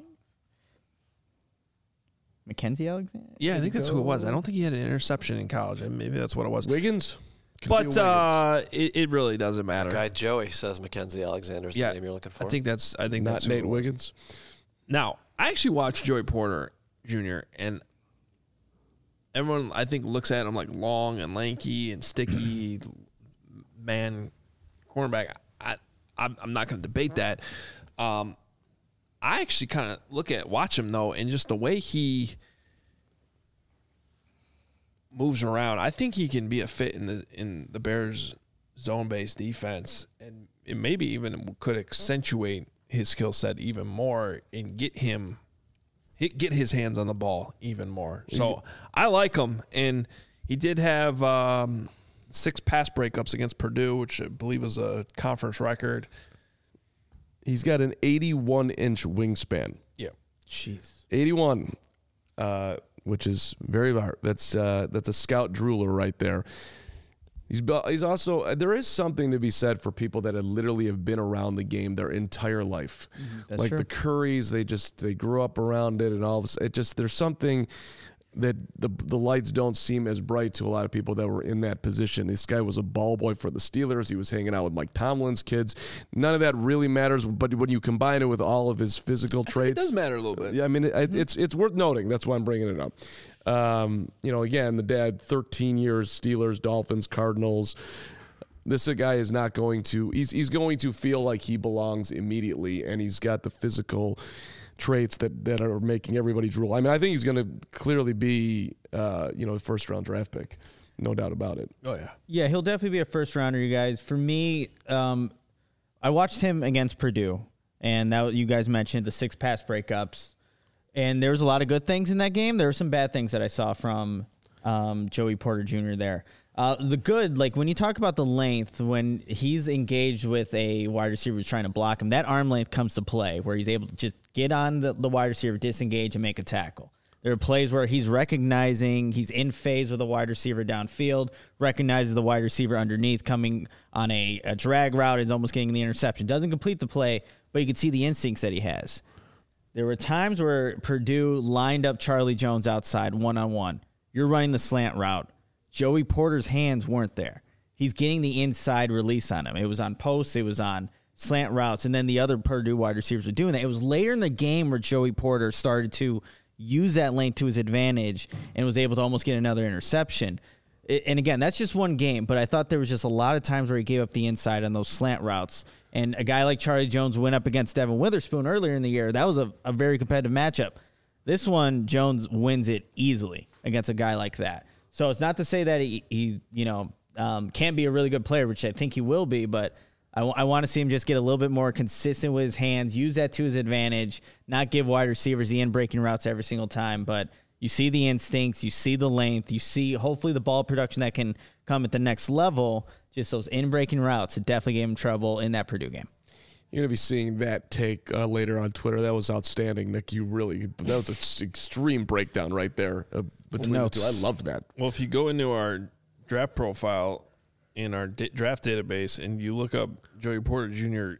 S4: Mackenzie Alexander.
S1: yeah, I think that's who it was. I don't think he had an interception in college. Maybe that's what it was.
S2: Wiggins? Could
S1: But uh, it, it really doesn't matter.
S3: Guy Joey says Mackenzie Alexander is
S1: Yeah,
S3: the name you're looking for.
S1: I think that's. I think
S2: Not
S1: that's who
S2: Nate
S1: it was.
S2: Wiggins?
S1: Now, I actually watched Joey Porter Junior and everyone, I think, looks at him like long and lanky and sticky man cornerback. I, I'm, I'm not going to debate that. Um, I actually kind of look at watch him though, and just the way he moves around. I think he can be a fit in the in the Bears' zone-based defense, and it maybe even could accentuate his skill set even more and get him hit, get his hands on the ball even more. So I like him, and he did have um, six pass breakups against Purdue, which I believe was a conference record.
S2: He's got an eighty-one inch wingspan.
S1: Yeah. Jeez.
S2: eighty-one, uh, which is very hard. That's uh, that's a scout drooler right there. He's he's also there is something to be said for people that have literally have been around the game their entire life.
S4: Mm-hmm. That's
S2: like
S4: true.
S2: the Currys, they just they grew up around it, and all of a, it just there's something that the the lights don't seem as bright to a lot of people that were in that position. This guy was a ball boy for the Steelers. He was hanging out with Mike Tomlin's kids. None of that really matters, but when you combine it with all of his physical traits,
S1: It does matter a little bit.
S2: yeah, I mean, it, it's it's worth noting. That's why I'm bringing it up. Um, you know, again, the dad, thirteen years, Steelers, Dolphins, Cardinals. This guy is not going to. He's he's going to feel like he belongs immediately, and he's got the physical traits that, that are making everybody drool. I mean, I think he's going to clearly be, uh, you know, a first round draft pick, no doubt about it.
S1: Oh yeah.
S4: Yeah, he'll definitely be a first rounder, you guys. For me, um, I watched him against Purdue, and that you guys mentioned the six pass breakups. And there was a lot of good things in that game. There were some bad things that I saw from um, Joey Porter Junior there. Uh, the good, like when you talk about the length, when he's engaged with a wide receiver who's trying to block him, that arm length comes to play where he's able to just get on the, the wide receiver, disengage, and make a tackle. There are plays where he's recognizing he's in phase with a wide receiver downfield, recognizes the wide receiver underneath coming on a, a drag route, is almost getting the interception. Doesn't complete the play, but you can see the instincts that he has. There were times where Purdue lined up Charlie Jones outside one-on-one. You're running the slant route. Joey Porter's hands weren't there. He's getting the inside release on him. It was on posts. It was on slant routes. And then the other Purdue wide receivers were doing that. It was later in the game where Joey Porter started to use that length to his advantage and was able to almost get another interception. And again, that's just one game, but I thought there was just a lot of times where he gave up the inside on those slant routes. And a guy like Charlie Jones went up against Devin Witherspoon earlier in the year. That was a, a very competitive matchup. This one, Jones wins it easily against a guy like that. So it's not to say that he, he you know, um, can't be a really good player, which I think he will be, but I, w- I want to see him just get a little bit more consistent with his hands, use that to his advantage, not give wide receivers the in-breaking routes every single time, but you see the instincts, you see the length, you see hopefully the ball production that can come at the next level. Just those in-breaking routes, it definitely gave him trouble in that Purdue game.
S2: You're going to be seeing that take uh, later on Twitter. That was outstanding, Nick. You really, that was an extreme breakdown right there uh, between the two. I loved that.
S1: Well, if you go into our draft profile in our d- draft database and you look up Joey Porter Junior,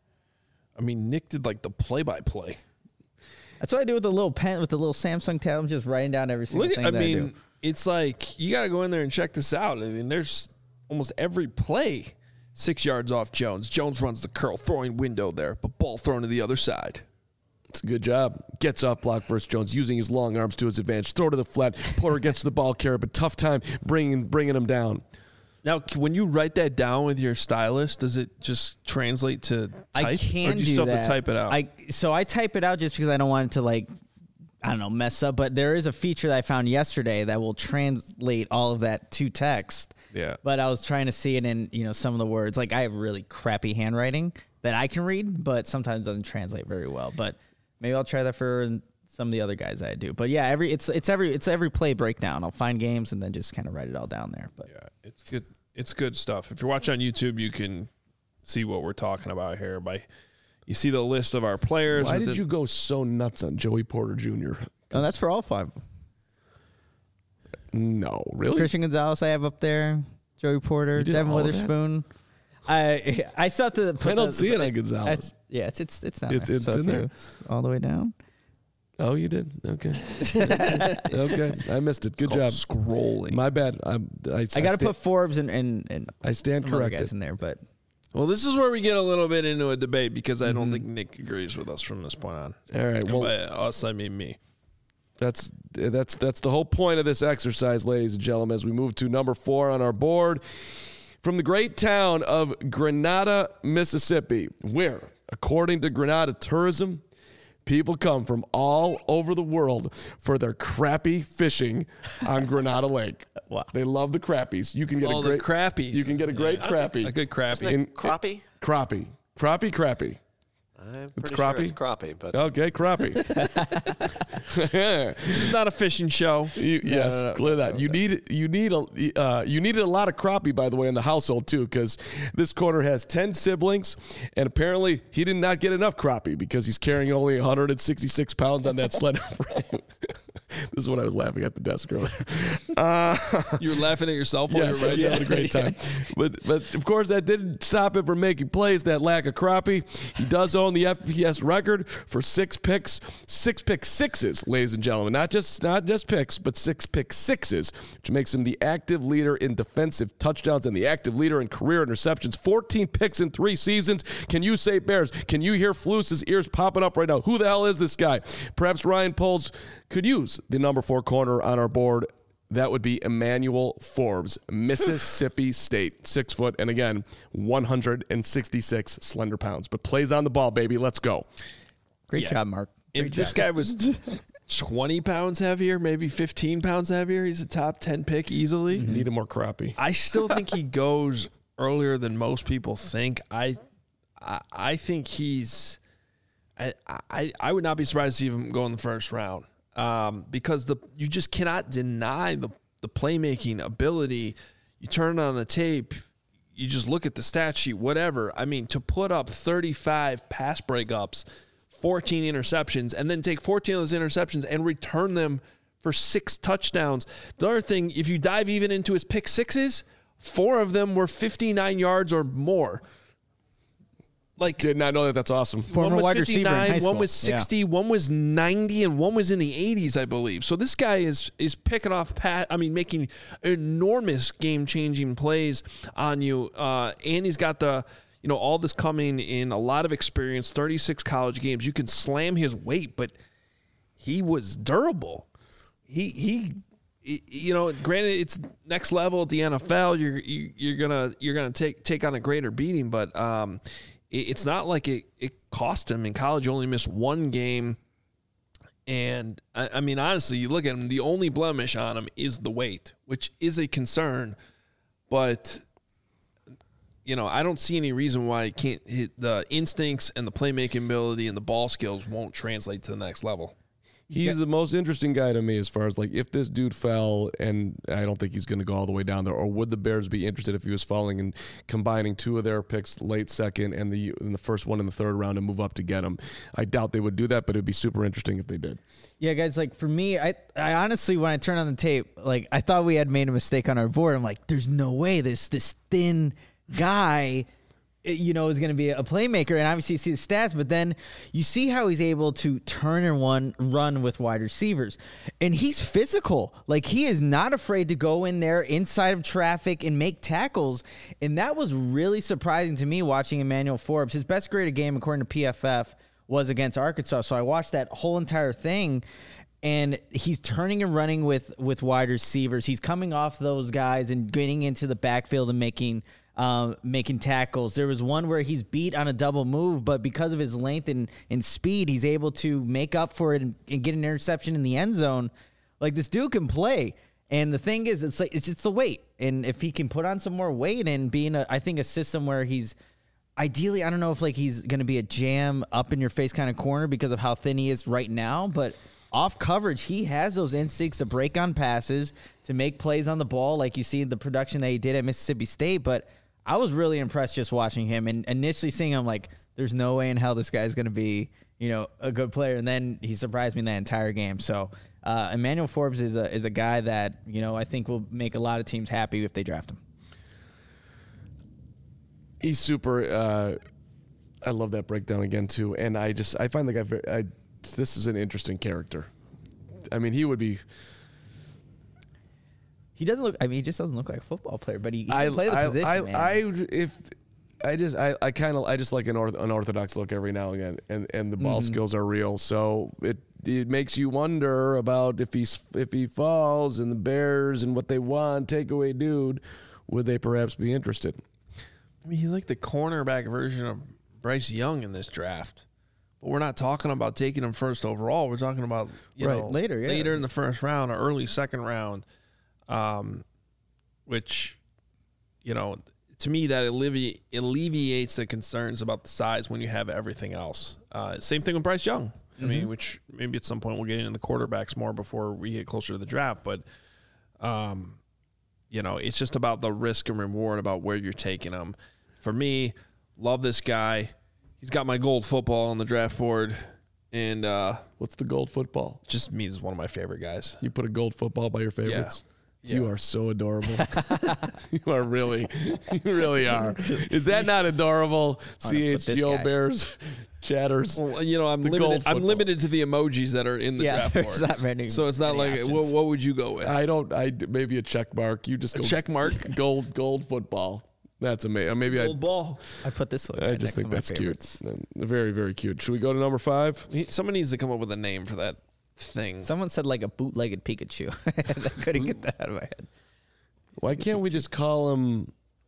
S1: I mean, Nick did like the play-by-play.
S4: That's what I do with the little pen, with the little Samsung tab. I'm just writing down every single
S1: Look,
S4: thing
S1: I
S4: that
S1: mean,
S4: I do.
S1: it's like you got to go in there and check this out. I mean, there's almost every play six yards off Jones. Jones runs the curl, throwing window there, but ball thrown to the other side.
S2: It's a good job. Gets off block versus Jones, using his long arms to his advantage. Throw to the flat. Porter gets the ball carrier, but tough time bringing bringing him down.
S1: Now, when you write that down with your stylus, does it just translate to type?
S4: I can
S1: or do you
S4: do
S1: still
S4: that.
S1: have to type it out?
S4: I so I type it out just because I don't want it to like I don't know mess up. But there is a feature that I found yesterday that will translate all of that to text.
S1: Yeah.
S4: But I was trying to see it in you know some of the words. Like I have really crappy handwriting that I can read, but sometimes it doesn't translate very well. But maybe I'll try that for some of the other guys that I do. But yeah, every it's it's every it's every play breakdown. I'll find games and then just kind of write it all down there. But
S1: Yeah, it's good. It's good stuff. If you're watching on YouTube, you can see what we're talking about here. By you see the list of our players.
S2: Why
S1: with
S2: did
S1: the-
S2: you go so nuts on Joey Porter Junior?
S4: oh, that's for all five.
S2: No, really?
S4: Christian Gonzalez I have up there. Joey Porter,
S2: did
S4: Devin
S2: all that?
S4: Witherspoon. I I still have to. Put
S2: I don't
S4: the,
S2: see it on
S4: I-
S2: Gonzalez.
S4: Yeah, it's it's it's not
S2: It's-
S4: there.
S2: it's
S4: So
S2: in
S4: if
S2: there.
S4: you- all the way down.
S2: Oh, you did? Okay. Okay. I missed it. Good
S1: called
S2: job.
S1: scrolling.
S2: My bad. I'm, I,
S4: I got to
S2: sta-
S4: put Forbes and and, and
S2: I stand
S4: some other
S2: corrected.
S4: guys in there, but
S1: Well, this is where we get a little bit into a debate because I
S2: Mm-hmm.
S1: don't think Nick agrees with us from this point on.
S2: All right. Well,
S1: By us, I mean me.
S2: That's that's that's the whole point of this exercise, ladies and gentlemen, as we move to number four on our board. From the great town of Grenada, Mississippi, where, according to Grenada Tourism, people come from all over the world for their crappie fishing on Grenada Lake.
S4: Wow.
S2: They love the crappies. You can get
S1: Oh,
S2: a
S1: the
S2: great
S1: crappie.
S2: You can get a great crappie.
S1: A good crappie.
S3: Isn't it crappie?
S2: Crappie. Crappie, crappie.
S3: I'm
S2: It's
S3: pretty
S2: crappie?
S3: sure it's crappie, but
S2: Okay, crappie.
S1: This is not a fishing show.
S2: You, yes,
S1: no, no,
S2: clear
S1: no,
S2: that.
S1: no,
S2: You
S1: no.
S2: need you need a uh, you needed a lot of crappie, by the way, in the household too, because this corner has ten siblings, and apparently he did not get enough crappie because he's carrying only one hundred sixty-six pounds on that slender frame. This is when I was laughing at the desk earlier. Uh,
S1: You were laughing at yourself while
S2: yes,
S1: you were
S2: yeah,
S1: writing.
S2: having a great time. But but of course that didn't stop him from making plays. That lack of crappie. He does own the F P S record for six picks, six pick sixes, ladies and gentlemen. Not just not just picks, but six pick sixes, which makes him the active leader in defensive touchdowns and the active leader in career interceptions. fourteen picks in three seasons. Can you say Bears? Can you hear Flus's ears popping up right now? Who the hell is this guy? Perhaps Ryan Poles could use the number four corner on our board. That would be Emmanuel Forbes, Mississippi State, six foot, and again, one hundred sixty-six slender pounds. But plays on the ball, baby. Let's go.
S4: Great
S1: Yeah.
S4: job, Mark.
S1: If
S4: Great
S1: this
S4: job.
S1: guy was twenty pounds heavier, maybe fifteen pounds heavier, he's a top ten pick easily.
S2: Needed more crappie.
S1: I still think he goes earlier than most people think. I, I, I think he's. I, I, I would not be surprised to see him go in the first round, um, because the you just cannot deny the the playmaking ability. You turn on the tape, you just look at the stat sheet, whatever. I mean, to put up thirty-five pass breakups, fourteen interceptions, and then take fourteen of those interceptions and return them for six touchdowns. The other thing, if you dive even into his pick sixes, four of them were fifty-nine yards or more. Like,
S2: Did not know that. That's awesome.
S4: Former
S1: one was
S4: wide receiver in
S1: fifty-nine,
S4: high school.
S1: one was
S4: Yeah.
S1: sixty, one was ninety, and one was in the eighties, I believe. So this guy is is picking off pat. I mean, making enormous game changing plays on you. Uh, and he's got the you know all this coming in a lot of experience. thirty-six college games. You can slam his weight, but he was durable. He he. You know, granted, it's next level at the N F L. You're you, you're gonna you're gonna take take on a greater beating, but um, it, it's not like it, it cost him in college. You only missed one game, and I, I mean, honestly, you look at him. The only blemish on him is the weight, which is a concern. But you know, I don't see any reason why it can't hit the instincts and the playmaking ability and the ball skills won't translate to the next level.
S2: He's the most interesting guy to me as far as like if this dude fell, and I don't think he's going to go all the way down there, or would the Bears be interested if he was falling and combining two of their picks late second and the and the first one in the third round and move up to get him? I doubt they would do that, but it'd be super interesting if they did.
S4: Yeah, guys, like for me, I, I honestly, when I turned on the tape, like I thought we had made a mistake on our board. I'm like, there's no way this this thin guy, you know, is going to be a playmaker. And obviously you see the stats, but then you see how he's able to turn and run, run with wide receivers. And he's physical. Like he is not afraid to go in there inside of traffic and make tackles. And that was really surprising to me watching Emmanuel Forbes. His best graded game, according to P F F, was against Arkansas. So I watched that whole entire thing. And he's turning and running with, with wide receivers. He's coming off those guys and getting into the backfield and making um, making tackles. There was one where he's beat on a double move, but because of his length and, and speed, he's able to make up for it and, and get an interception in the end zone. Like this dude can play. And the thing is, it's like it's just the weight. And if he can put on some more weight and be in a, I think a system where he's ideally, I don't know if like he's going to be a jam up in your face kind of corner because of how thin he is right now, but off coverage, he has those instincts to break on passes, to make plays on the ball, like you see in the production that he did at Mississippi State. But I was really impressed just watching him and initially seeing him like, there's no way in hell this guy's going to be, you know, a good player. And then he surprised me in that entire game. So uh, Emmanuel Forbes is a is a guy that, you know, I think will make a lot of teams happy if they draft him.
S2: He's super. Uh, I love that breakdown again too, and I just I find the guy. Very, I this is an interesting character. I mean, he would be.
S4: He doesn't look. I mean, he just doesn't look like a football player, but he, he
S2: I
S4: can play the
S2: I,
S4: position.
S2: I,
S4: man.
S2: I if I just I, I kind of I just like an orth, unorthodox look every now and again, and and the ball
S4: Mm-hmm.
S2: skills are real. So it it makes you wonder about if he's if he falls and the Bears and what they want takeaway dude, would they perhaps be interested?
S1: I mean, he's like the cornerback version of Bryce Young in this draft. But we're not talking about taking him first overall. We're talking about you
S2: Right.
S1: know
S4: Later, yeah.
S1: later in the first round or early second round, um, which you know to me, that allevi- alleviates the concerns about the size when you have everything else. Uh, same thing with Bryce Young. I mean, which maybe at some point we'll get into the quarterbacks more before we get closer to the draft. But, um, you know, it's just about the risk and reward about where you're taking them. For me, love this guy. He's got my gold football on the draft board. And uh,
S2: what's the gold football?
S1: Just means one of my favorite guys.
S2: You put a gold football by your favorites?
S1: Yeah.
S2: You
S1: Yeah.
S2: are so adorable. You are really, you really are. Is that not adorable? C H G O Bears chatters.
S1: Well, you know, I'm
S2: The
S1: limited.
S2: gold
S1: I'm
S2: football.
S1: limited to the emojis that are in the
S4: Yeah,
S1: draft
S4: there's
S1: board.
S4: not many-
S1: so it's not
S4: many
S1: like
S4: options.
S1: what, what would you go with?
S2: I don't. I maybe a check mark. You just
S1: A
S2: go
S1: check mark?
S2: Gold gold football. That's amazing. Maybe I.
S1: Gold ball.
S4: I put this one
S2: I
S4: right
S2: just
S4: next
S2: think
S4: to my
S2: that's
S4: favorites.
S2: cute. Very very cute. Should we go to number five?
S1: He- Someone needs to come up with a name for that thing.
S4: Someone said like a bootlegged Pikachu. I couldn't get that out of my head.
S2: Why can't we just call him?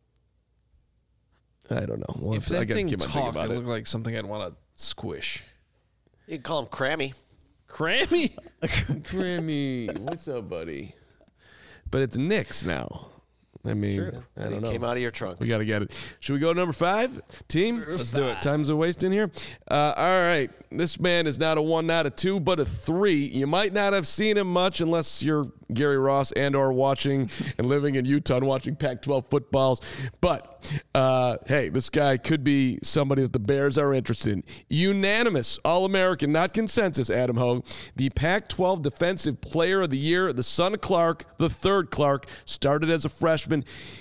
S2: I don't know. We'll
S1: if
S2: have to- I
S1: that
S2: gotta
S1: thing
S2: keep my thing
S1: talked,
S2: about
S1: it
S2: it.
S1: looked like something I'd want to squish.
S3: You can call him Crammy.
S1: Crammy.
S2: Grammy, what's up, buddy? But it's Knicks now. I mean, I
S3: And
S2: don't
S3: he
S2: know.
S3: came out of your trunk.
S2: We got to get it. Should we go to number five, team?
S1: Let's do it.
S2: Time's a waste in here. Uh, all right. This man is not a one, not a two, but a three. You might not have seen him much unless you're Gary Ross and or watching and living in Utah and watching Pac twelve footballs. But, uh, hey, this guy could be somebody that the Bears are interested in. Unanimous All-American, not consensus, Adam Hogue. The Pac twelve Defensive Player of the Year, the son of Clark, the third Clark, started as a freshman.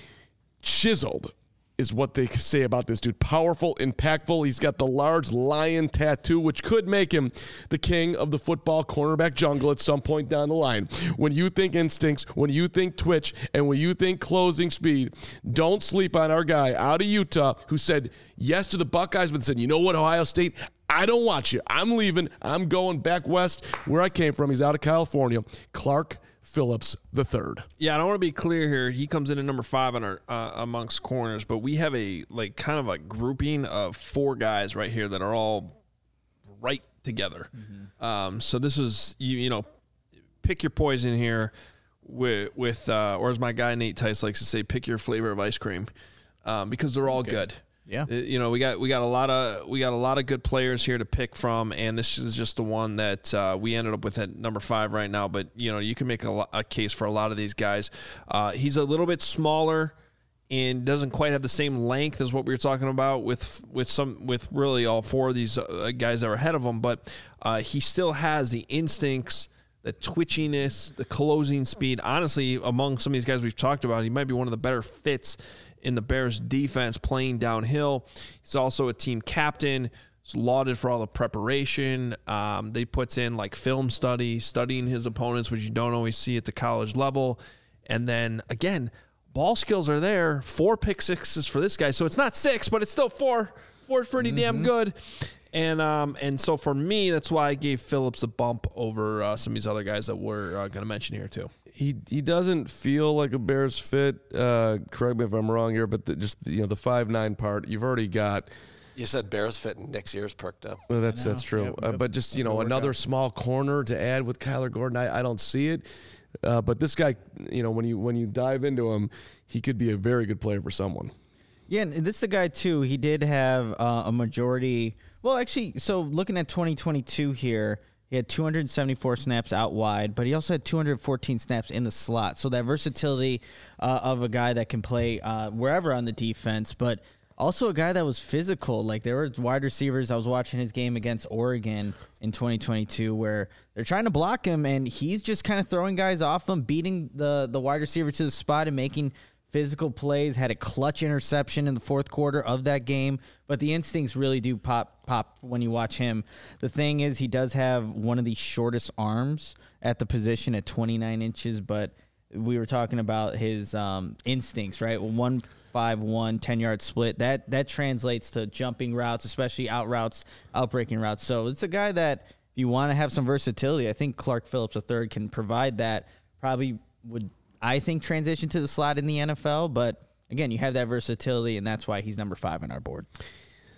S2: Chiseled is what they say about this dude. Powerful, impactful. He's got the large lion tattoo, which could make him the king of the football cornerback jungle at some point down the line. When you think instincts, when you think twitch, and when you think closing speed, don't sleep on our guy out of Utah who said yes to the Buckeyes, but said, you know what, Ohio State, I don't want you. I'm leaving. I'm going back west where I came from. He's out of California. Clark Phillips the third.
S1: Yeah, I don't want to be clear here. He comes in at number five on our uh, amongst corners, but we have a like kind of a grouping of four guys right here that are all right together. Mm-hmm. Um, so this is you you know pick your poison here with with uh, or as my guy Nate Tice likes to say, pick your flavor of ice cream um, because they're all good.
S4: Yeah.
S1: Uh, you know, we got we got a lot of we got a lot of good players here to pick from, and this is just the one that uh, we ended up with at number five right now. But you know, you can make a, lo- a case for a lot of these guys. Uh, he's a little bit smaller and doesn't quite have the same length as what we were talking about with with some with really all four of these uh, guys that are ahead of him. But uh, he still has the instincts, the twitchiness, the closing speed. Honestly, among some of these guys we've talked about, he might be one of the better fits in the Bears defense playing downhill. He's also a team captain. He's lauded for all the preparation. Um, they puts in like film study, studying his opponents, which you don't always see at the college level. And then again, ball skills are there. Four pick sixes for this guy. So it's not six, but it's still four. Four is pretty mm-hmm. damn good. And um, and so for me, that's why I gave Phillips a bump over uh, some of these other guys that we're uh, going to mention here too.
S2: He he doesn't feel like a Bears fit. Uh, correct me if I'm wrong here, but the, just you know the five nine part, you've already got.
S3: You said Bears fit, and Nick's ears perked up.
S2: Well, that's that's true.
S4: Yep,
S2: uh,
S4: yep.
S2: but just you
S4: That'll
S2: know
S4: work
S2: another
S4: out.
S2: small corner to add with Kyler Gordon, I, I don't see it. Uh, but this guy, you know, when you when you dive into him, he could be a very good player for someone.
S4: Yeah, and this is the guy too. He did have uh, a majority. Well, actually, so looking at twenty twenty-two here, he had two hundred seventy-four snaps out wide, but he also had two hundred fourteen snaps in the slot. So that versatility uh, of a guy that can play uh, wherever on the defense, but also a guy that was physical. Like there were wide receivers. I was watching his game against Oregon in twenty twenty-two where they're trying to block him, and he's just kind of throwing guys off him, beating the the wide receiver to the spot and making physical plays. Had a clutch interception in the fourth quarter of that game, but the instincts really do pop pop when you watch him. The thing is, he does have one of the shortest arms at the position at twenty-nine inches, but we were talking about his um, instincts, right? one five one, ten-yard split. That that translates to jumping routes, especially out routes, out-breaking routes. So it's a guy that, if you want to have some versatility, I think Clark Phillips the third can provide that. Probably would, I think, transition to the slot in the N F L, but again, you have that versatility, and that's why he's number five on our board.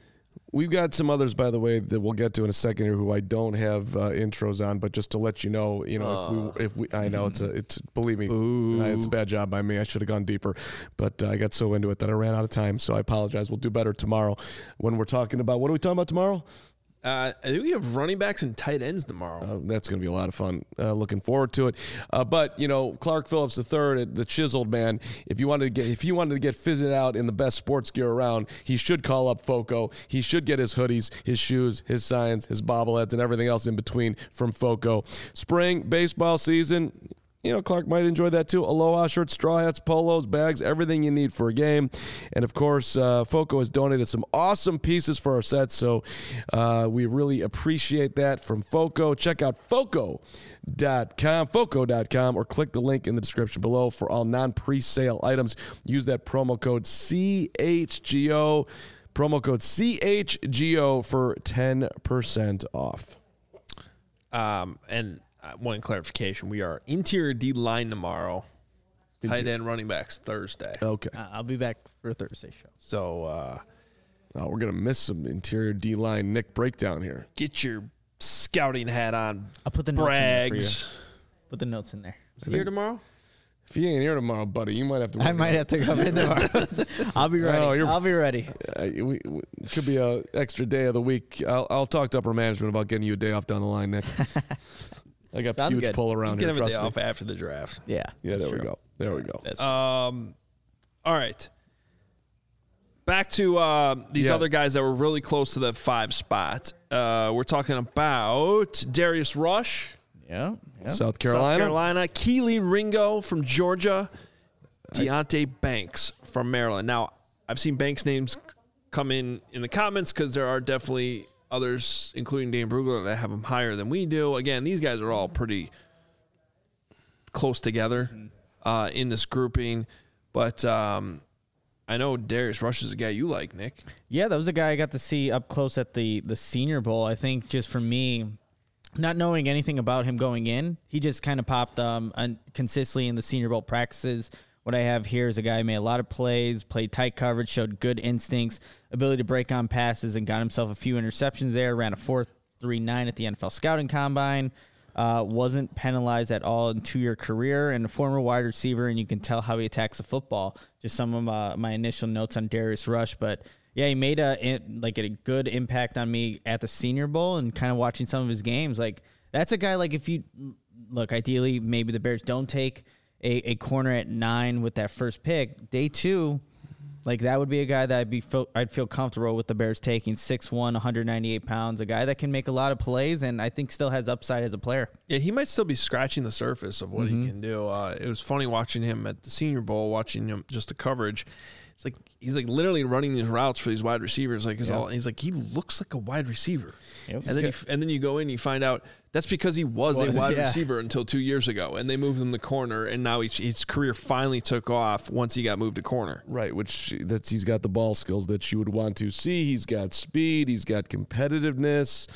S2: We've got some others, by the way, that we'll get to in a second here, who I don't have uh, intros on. But just to let you know, you know, uh. if we, if we, I know it's a, it's believe me, Ooh. it's a bad job by me. I should have gone deeper, but uh, I got so into it that I ran out of time. So I apologize. We'll do better tomorrow when we're talking about what are we talking about tomorrow?
S1: Uh, I think we have running backs and tight ends tomorrow.
S2: Uh, that's going to be a lot of fun. Uh, looking forward to it. Uh, but you know, Clark Phillips the third, the chiseled man. If you wanted to get, if you wanted to get fitted out in the best sports gear around, he should call up Foco. He should get his hoodies, his shoes, his signs, his bobbleheads, and everything else in between from Foco. Spring baseball season. You know, Clark might enjoy that too. Aloha shirts, straw hats, polos, bags, everything you need for a game. And, of course, uh, Foco has donated some awesome pieces for our sets, so uh, we really appreciate that from Foco. Check out Foco dot com, Foco dot com, or click the link in the description below for all non-presale items. Use that promo code C H G O, promo code C H G O for ten percent off.
S1: Um, and... One clarification: we are interior D line tomorrow, interior. Tight end, running backs Thursday.
S2: Okay,
S4: uh, I'll be back for a Thursday show.
S1: So uh,
S2: oh, we're gonna miss some interior D line Nick breakdown here.
S1: Get your scouting hat on.
S4: I'll put the
S1: Brags.
S4: notes in there for you. Put the notes in there.
S1: Is he here tomorrow?
S2: If he ain't here tomorrow, buddy, you might have to.
S4: I might have to come in tomorrow. I'll be ready. Oh, I'll be ready.
S2: Uh, we, we, it could be a extra day of the week. I'll, I'll talk to upper management about getting you a day off down the line, Nick. I got
S4: Sounds
S2: huge
S4: good.
S2: pull around
S1: you
S2: here.
S1: Get him a day
S2: me.
S1: off after the draft.
S4: Yeah.
S2: Yeah, there we go. There we go.
S1: Um, all right. Back to uh, these
S2: yeah.
S1: other guys that were really close to that five spot. Uh, we're talking about Darius Rush.
S4: Yeah. yeah.
S2: South Carolina.
S1: South Carolina. Keely Ringo from Georgia. Deonte Banks from Maryland. Now, I've seen Banks' names come in in the comments because there are definitely others, including Dane Brugler, that have him higher than we do. Again, these guys are all pretty close together uh, in this grouping. But um, I know Darius Rush is a guy you like, Nick.
S4: Yeah, that was the guy I got to see up close at the, the Senior Bowl. I think just for me, not knowing anything about him going in, he just kind of popped um, un- consistently in the Senior Bowl practices. What I have here is a guy who made a lot of plays, played tight coverage, showed good instincts, ability to break on passes, and got himself a few interceptions there. Ran a four three nine at the N F L Scouting Combine. Uh, wasn't penalized at all in two-year career, and a former wide receiver, and you can tell how he attacks the football. Just some of my, my initial notes on Darius Rush. But, yeah, he made a like a good impact on me at the Senior Bowl and kind of watching some of his games. Like, that's a guy, like, if you – look, ideally, maybe the Bears don't take – A, a corner at nine with that first pick. Day two, like that would be a guy that I'd be feel, I'd feel comfortable with the Bears taking. six one, one hundred ninety-eight pounds, a guy that can make a lot of plays and I think still has upside as a player.
S1: Yeah, he might still be scratching the surface of what mm-hmm. he can do. Uh, it was funny watching him at the Senior Bowl, watching him just the coverage. It's like he's like literally running these routes for these wide receivers. Like, yeah. all, he's like he looks like a wide receiver. Yep. And then you, and then you go in, and you find out that's because he was, was a wide yeah. receiver until two years ago, and they moved him to corner, and now he, his career finally took off once he got moved to corner.
S2: Right, which that's he's got the ball skills that you would want to see. He's got speed. He's got competitiveness.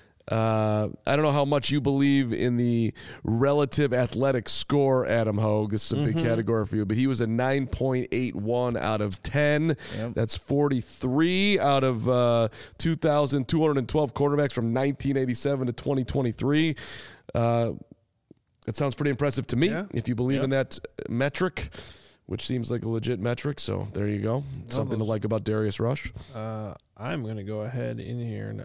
S2: Uh, I don't know how much you believe in the relative athletic score, Adam Hogue. This is a mm-hmm. big category for you, but he was a nine point eight one out of ten. Yep. That's forty-three out of uh, two thousand two hundred twelve quarterbacks from nineteen eighty-seven to twenty twenty-three. Uh, that sounds pretty impressive to me, yeah. if you believe yep. in that metric, which seems like a legit metric. So there you go. Something to like about Darius Rush.
S1: Uh, I'm going to go ahead in here and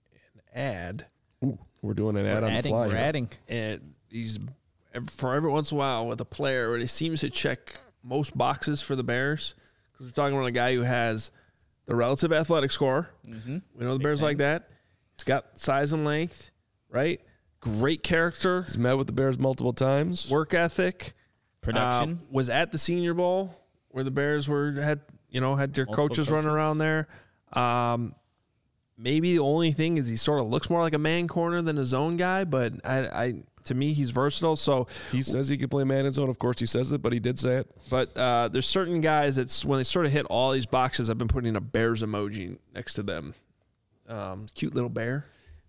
S1: add.
S2: Ooh, we're doing an ad
S4: we're
S2: on
S4: adding,
S2: the fly.
S4: We're
S2: here.
S4: adding.
S1: And he's for every once in a while with a player where he seems to check most boxes for the Bears. Because we're talking about a guy who has the relative athletic score. Mm-hmm. We know the Big Bears thing. Like that. He's got size and length, right? Great character.
S2: He's met with the Bears multiple times.
S1: Work ethic.
S4: Production.
S1: Uh, was at the Senior Bowl where the Bears were had you know had their multiple coaches, coaches running around there. Um, Maybe the only thing is he sort of looks more like a man corner than a zone guy, but I, I to me he's versatile. So
S2: he says he can play man and zone. Of course he says it, but he did say it.
S1: But uh, there's certain guys that's when they sort of hit all these boxes, I've been putting a Bears emoji next to them. Um, cute little bear.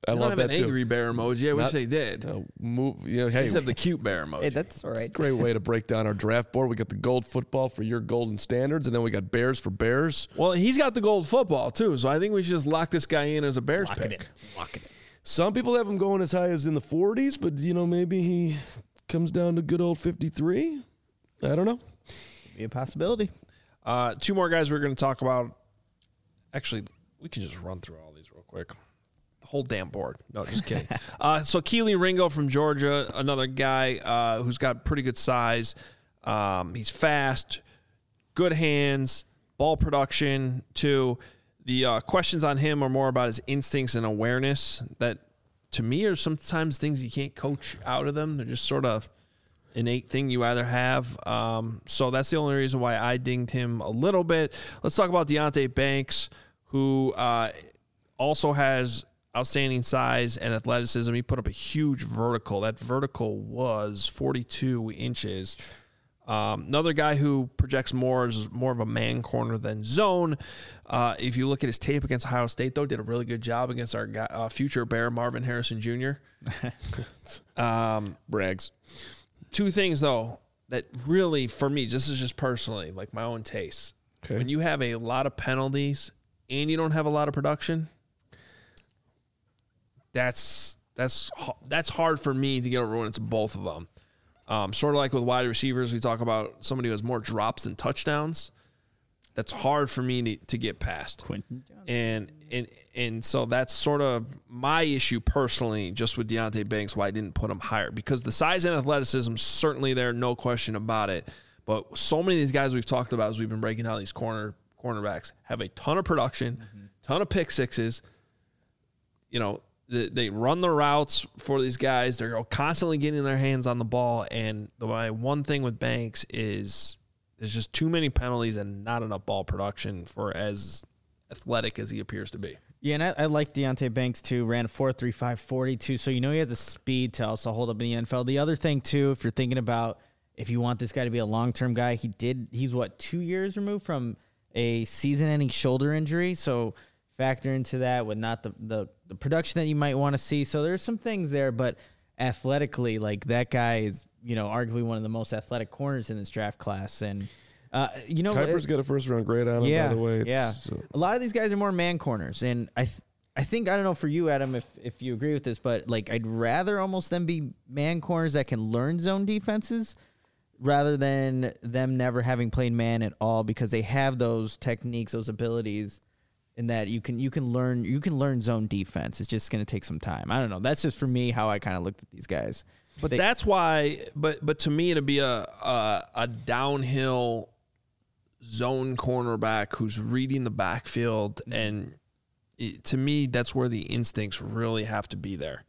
S2: I
S1: They
S2: love
S1: don't have
S2: that
S1: an
S2: too.
S1: angry bear emoji. I wish
S2: Not-
S1: they did.
S2: Uh, move, you know,
S1: They
S2: hey,
S1: just have the cute bear emoji.
S4: Hey, that's all
S2: it's a
S4: right.
S2: great way to break down our draft board. We got the gold football for your golden standards, and then we got bears for bears.
S1: Well, he's got the gold football too, so I think we should just lock this guy in as a Bears
S4: Lock
S1: pick.
S4: it in. Lock it in.
S2: Some people have him going as high as in the forties, but you know maybe he comes down to good old fifty-three. I don't know.
S4: Be a possibility.
S1: Uh, two more guys we're going to talk about. Actually, we can just run through all these real quick. The whole damn board. No, just kidding. uh, so Keely Ringo from Georgia, another guy uh, who's got pretty good size. Um, he's fast, good hands, ball production too. The uh, questions on him are more about his instincts and awareness that, to me, are sometimes things you can't coach out of them. They're just sort of innate thing you either have. Um, so that's the only reason why I dinged him a little bit. Let's talk about Deonte Banks, who uh, also has outstanding size and athleticism. He put up a huge vertical. That vertical was forty-two inches. Um, another guy who projects more is more of a man corner than zone. Uh, if you look at his tape against Ohio State, though, did a really good job against our guy, uh, future Bear Marvin Harrison Junior um,
S2: Brags.
S1: Two things, though, that really, for me, this is just personally, like my own taste.
S2: Okay.
S1: When you have a lot of penalties and you don't have a lot of production, that's that's that's hard for me to get over when it's both of them. Um, sort of like with wide receivers, we talk about somebody who has more drops than touchdowns. That's hard for me to, to get past.
S4: Quentin Johnson.
S1: And and and so that's sort of my issue personally, just with Deonte Banks, why I didn't put him higher. Because the size and athleticism certainly there, no question about it. But so many of these guys we've talked about as we've been breaking down these corner cornerbacks have a ton of production, mm-hmm. ton of pick sixes. You know, the, they run the routes for these guys. They're constantly getting their hands on the ball. And the my one thing with Banks is there's just too many penalties and not enough ball production for as athletic as he appears to be.
S4: Yeah, and I, I like Deonte Banks too. Ran a four three five forty-two, so you know he has a speed to also hold up in the N F L. The other thing too, if you're thinking about if you want this guy to be a long-term guy, he did. He's what two years removed from a season-ending shoulder injury, so factor into that with not the the, the production that you might want to see. So there's some things there, but athletically, like that guy is, you know, arguably one of the most athletic corners in this draft class, and. Uh, you know,
S2: Kuiper's
S4: it,
S2: got a first round grade on him,
S4: yeah,
S2: by the way. It's,
S4: yeah.
S2: So.
S4: A lot of these guys are more man corners, and I, th- I think I don't know for you, Adam, if if you agree with this, but like I'd rather almost them be man corners that can learn zone defenses, rather than them never having played man at all, because they have those techniques, those abilities, in that you can you can learn you can learn zone defense. It's just going to take some time. I don't know. That's just for me how I kind of looked at these guys.
S1: But
S4: they,
S1: that's why. But but to me, it'd be a a, a downhill zone cornerback who's reading the backfield, and it, to me, that's where the instincts really have to be there.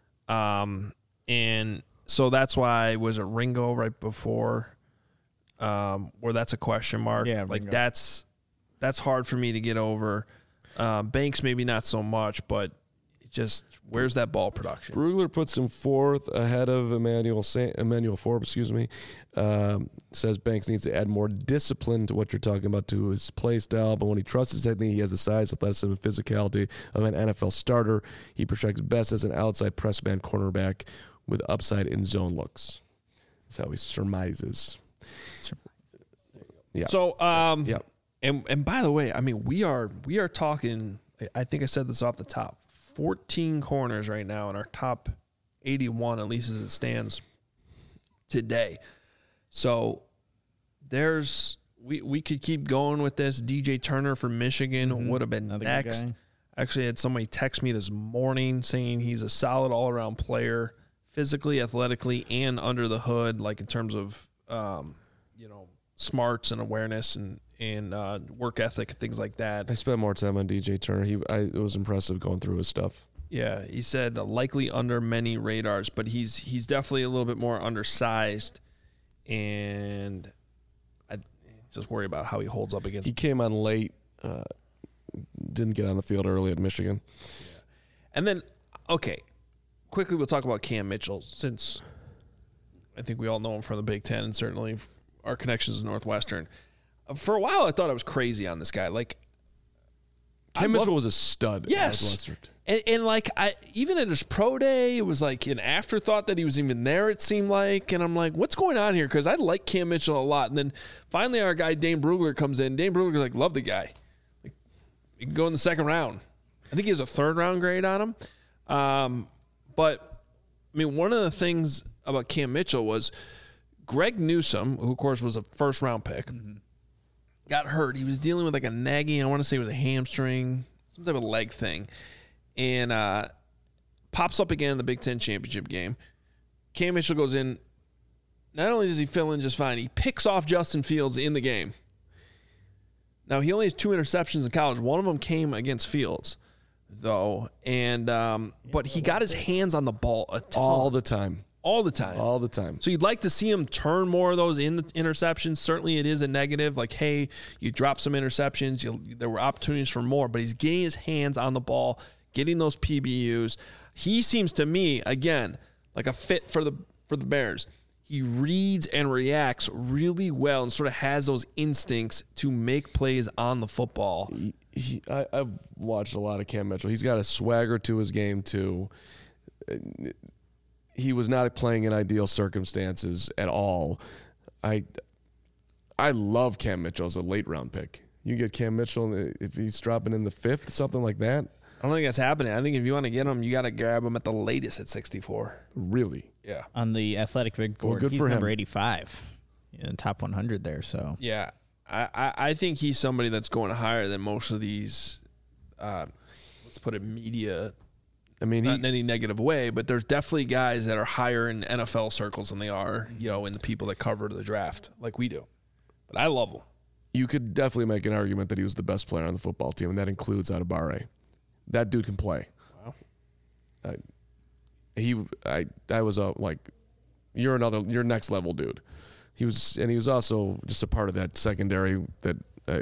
S1: Um, and so that's why was it Ringo right before, um, where that's a question mark.
S4: Yeah,
S1: like
S4: Ringo.
S1: that's that's hard for me to get over. Uh, Banks maybe not so much, but it just where's that ball production?
S2: Brugler puts him fourth ahead of Emmanuel Sa- Emmanuel Forbes, excuse me. Um, says Banks needs to add more discipline to what you're talking about to his play style, but when he trusts his technique, he has the size, athleticism, and physicality of an N F L starter. He projects best as an outside press man cornerback with upside in zone looks. That's how he surmises. Yeah.
S1: So, um,
S2: yeah.
S1: And and by the way, I mean we are we are talking. I think I said this off the top. fourteen corners right now in our top eighty-one, at least as it stands today. So there's we we could keep going with this. D J Turner from Michigan mm-hmm. would have been
S4: Another
S1: next. Actually, I had somebody text me this morning saying he's a solid all-around player, physically, athletically, and under the hood, like in terms of um, you know smarts and awareness and and uh, work ethic and things like that.
S2: I spent more time on D J Turner. He, I, it was impressive going through his stuff.
S1: Yeah, he said uh, likely under many radars, but he's he's definitely a little bit more undersized, and I just worry about how he holds up against.
S2: He came on late, uh, didn't get on the field early at Michigan.
S1: Yeah. And then, okay, quickly we'll talk about Cam Mitchell, since I think we all know him from the Big Ten and certainly our connections to Northwestern. For a while, I thought I was crazy on this guy. Like,
S2: Cam Mitchell was a stud.
S1: Yes. And, and like I even at his pro day, it was like an afterthought that he was even there, it seemed like. And I'm like, what's going on here? Because I like Cam Mitchell a lot. And then finally our guy Dane Brugler comes in. Dane Brugler's like, love the guy. Like, he can go in the second round. I think he has a third round grade on him. Um, but I mean, one of the things about Cam Mitchell was Greg Newsome, who of course was a first round pick, mm-hmm. got hurt. He was dealing with like a nagging, I want to say it was a hamstring, some type of leg thing. And uh, pops up again in the Big Ten championship game. Cam Mitchell goes in. Not only does he fill in just fine, he picks off Justin Fields in the game. Now, he only has two interceptions in college. One of them came against Fields, though. And um, But he got his hands on the ball a ton.
S2: All the time.
S1: All the time.
S2: All the time.
S1: So you'd like to see him turn more of those in the interceptions. Certainly it is a negative. Like, hey, you dropped some interceptions. You, there were opportunities for more. But he's getting his hands on the ball, getting those P B Us. He seems to me, again, like a fit for the for the Bears. He reads and reacts really well and sort of has those instincts to make plays on the football.
S2: He, he, I, I've watched a lot of Cam Mitchell. He's got a swagger to his game, too. He was not playing in ideal circumstances at all. I I love Cam Mitchell as a late-round pick. You get Cam Mitchell, if he's dropping in the fifth, something like that.
S1: I don't think that's happening. I think if you want to get him, you got to grab him at the latest at sixty-four.
S2: Really?
S1: Yeah.
S4: On the Athletic Big Board,
S2: well, good
S4: he's
S2: for
S4: number
S2: him.
S4: eighty-five in top one hundred there. So
S1: yeah, I, I, I think he's somebody that's going higher than most of these, uh, let's put it, media.
S2: I mean,
S1: not
S2: he,
S1: in any negative way, but there's definitely guys that are higher in N F L circles than they are, you know, in the people that cover the draft like we do. But I love him.
S2: You could definitely make an argument that he was the best player on the football team, and that includes Adebawore. That dude can play.
S1: Wow.
S2: I, he, I, I was a like, you're another, you're next level dude. He was, and he was also just a part of that secondary that uh,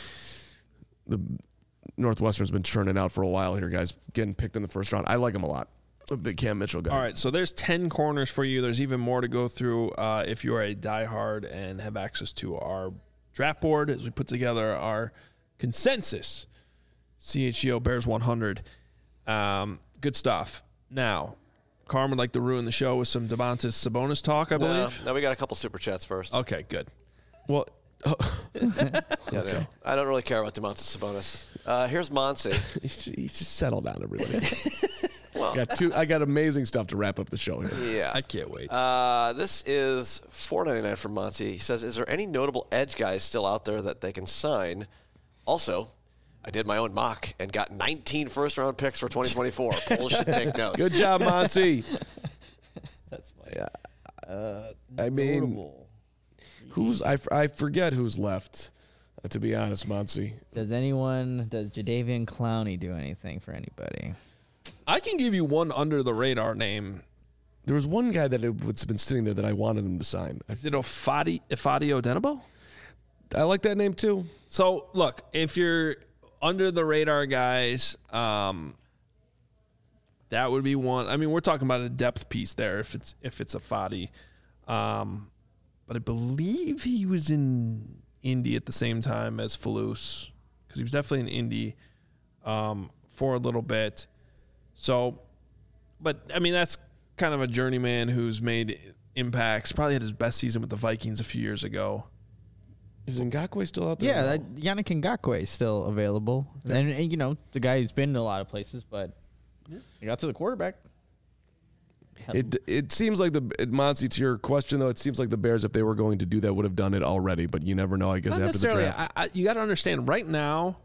S2: the Northwestern's been churning out for a while here, guys. Getting picked in the first round. I like him a lot. I'm a big Cam Mitchell guy.
S1: All right, so there's ten corners for you. There's even more to go through uh, if you are a diehard and have access to our draft board as we put together our consensus C H G O Bears one hundred. Um, good stuff. Now, Carm would like to ruin the show with some Domantas Sabonis talk, I believe.
S3: No, no, we got a couple super chats first.
S1: Okay, good.
S2: Well,
S3: yeah, no, I don't really care about Domantas Sabonis. Uh, here's Monse.
S2: he's just settle down, everybody.
S3: Well,
S2: I got two. I got amazing stuff to wrap up the show here.
S3: yeah,
S1: I can't wait.
S3: Uh, this is four ninety-nine from Monty. He says, "Is there any notable edge guys still out there that they can sign?" Also, I did my own mock and got nineteen first-round picks for twenty twenty-four. Polls should take notes.
S2: Good job, Monty.
S4: that's my. Uh,
S2: I mean,
S4: notable.
S2: who's I, I forget who's left. Uh, to be honest, Monty.
S4: Does anyone? Does Jadeveon Clowney do anything for anybody?
S1: I can give you one under-the-radar name.
S2: There was one guy that has been sitting there that I wanted him to sign. I,
S1: Is it Ifadi, Ifadi Odenigbo?
S2: I like that name too.
S1: So, look, if you're under-the-radar guys, um, that would be one. I mean, we're talking about a depth piece there if it's if it's Ifadi. Um, but I believe he was in Indy at the same time as Falus because he was definitely in Indy um, for a little bit. So, but, I mean, that's kind of a journeyman who's made impacts. Probably had his best season with the Vikings a few years ago.
S2: Is Ngakoue still out there?
S4: Yeah, that, Yannick Ngakoue is still available. Yeah. And, and, you know, the guy who's been in a lot of places, but yeah. he got to the quarterback.
S2: It it seems like the it, Monty, to your question though, it seems like the Bears, if they were going to do that, would have done it already. But you never know. I guess
S1: Not
S2: after the
S1: necessarily.
S2: draft,
S1: I, I, you got to understand. Right now,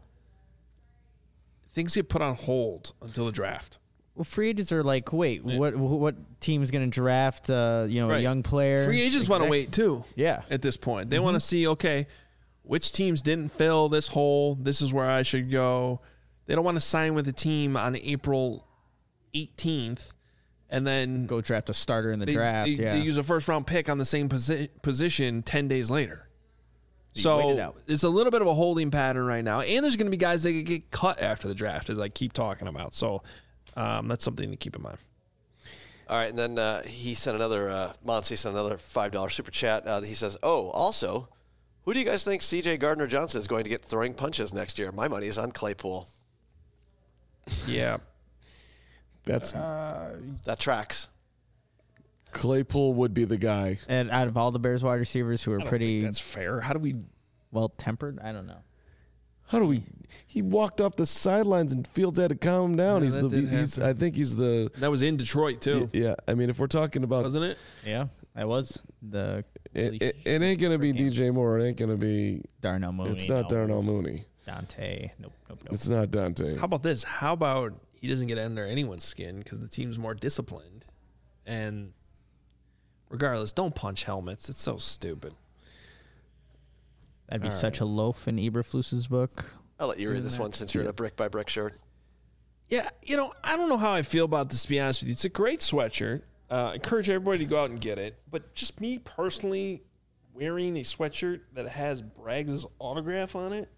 S1: things get put on hold until the draft.
S4: Well, free agents are like, wait, yeah. what what team is going to draft? Uh, you know,
S1: right.
S4: a young player.
S1: Free agents
S4: exactly.
S1: want to wait too.
S4: Yeah.
S1: At this point, they
S4: mm-hmm.
S1: want to see, okay, which teams didn't fill this hole. This is where I should go. They don't want to sign with a team on April eighteenth. And then
S4: go draft a starter in the
S1: they,
S4: draft.
S1: They,
S4: yeah.
S1: they use a first round pick on the same posi- position ten days later.
S4: You
S1: so
S4: wait it out.
S1: It's a little bit of a holding pattern right now. And there's going to be guys that could get cut after the draft, as I keep talking about. So um, that's something to keep in mind.
S3: All right, and then uh, he sent another, uh, Monty sent another five dollars super chat. Uh, he says, oh, also, who do you guys think C J Gardner-Johnson is going to get throwing punches next year? My money is on Claypool.
S1: Yeah.
S2: That's
S3: That tracks.
S2: Claypool would be the guy.
S4: And out of all the Bears wide receivers who are
S1: I don't
S4: pretty
S1: think that's fair. How do we?
S4: well tempered, I don't know.
S2: How do we? He walked off the sidelines and Fields had to calm him down.
S1: Yeah,
S2: he's
S1: that
S2: the.
S1: did
S2: He's.
S1: happen.
S2: I think he's the.
S1: That was in Detroit too,
S2: Yeah. I mean, if we're talking about,
S1: wasn't it?
S4: Yeah, that was the
S2: it, it, it ain't gonna be D J Moore. It ain't gonna be.
S4: Darnell Mooney.
S2: It's not
S4: no.
S2: Darnell Mooney.
S4: Dante. Nope, nope, nope.
S2: It's not Dante.
S1: How about this? How about he doesn't get under anyone's skin because the team's more disciplined, and regardless, don't punch helmets. It's so stupid.
S4: That'd be
S1: All
S4: such a loaf in Eberflus's book.
S3: I'll let you read this one since you're in a brick by brick shirt.
S1: Yeah, you know, I don't know how I feel about this, to be honest with you. It's a great sweatshirt. Uh, I encourage everybody to go out and get it. But just me personally wearing a sweatshirt that has Braggs' autograph on it,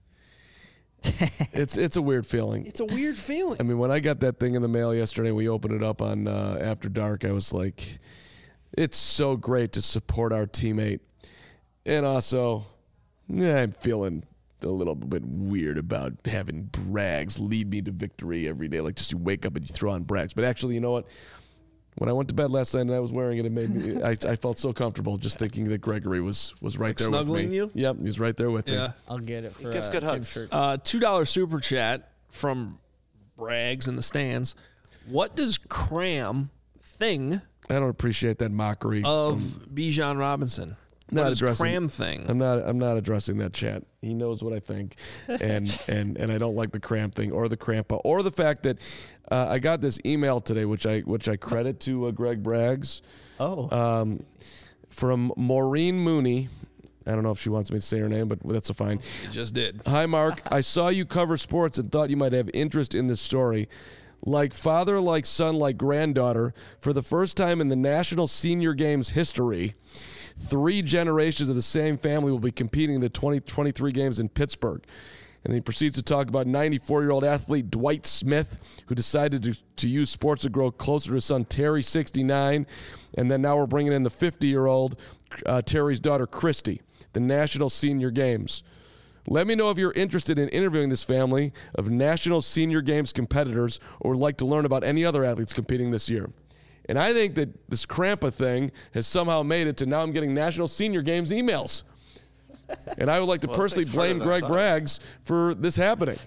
S2: It's it's a weird feeling.
S1: it's a weird feeling.
S2: I mean, when I got that thing in the mail yesterday, we opened it up on uh, After Dark. I was like, it's so great to support our teammate, and also, yeah, I'm feeling a little bit weird about having Braggs lead me to victory every day. Like, just you wake up and you throw on Braggs. But actually, you know what? When I went to bed last night and I was wearing it, it made me. I, I felt so comfortable just thinking that Gregory was was right
S1: Like
S2: there with
S1: snuggling
S2: me.
S1: you?
S2: Yep, he's right there with me.
S1: Yeah.
S4: I'll get it for
S3: gives
S4: uh,
S3: good
S4: Jim's
S3: hugs.
S4: shirt.
S1: Uh, two dollar super chat from Braggs in the stands. What does Cram thing
S2: I don't appreciate that mockery
S1: of Bijan Robinson?
S2: Not
S1: what does
S2: addressing-
S1: Cram thing?
S2: I'm not. I'm not addressing that chat. He knows what I think, and and and I don't like the cramp thing or the crampa or the fact that uh, I got this email today, which I which I credit to uh, Greg Braggs,
S4: Oh,
S2: um, from Maureen Mooney. I don't know if she wants me to say her name, but that's a fine.
S1: It just did.
S2: Hi, Mark. I saw you cover sports and thought you might have interest in this story. Like father, like son, like granddaughter, for the first time in the National Senior Games history, three generations of the same family will be competing in the twenty twenty-three games in Pittsburgh. And he proceeds to talk about ninety-four-year-old athlete Dwight Smith, who decided to, to use sports to grow closer to his son Terry, sixty-nine. And then now we're bringing in the fifty-year-old uh, Terry's daughter, Christy, the National Senior Games. Let me know if you're interested in interviewing this family of National Senior Games competitors or would like to learn about any other athletes competing this year. And I think that this Crampa thing has somehow made it to now I'm getting National Senior Games emails. And I would like to
S3: Well,
S2: personally
S3: this thing's harder
S2: blame
S3: than I
S2: Greg
S3: thought.
S2: Braggs for this happening.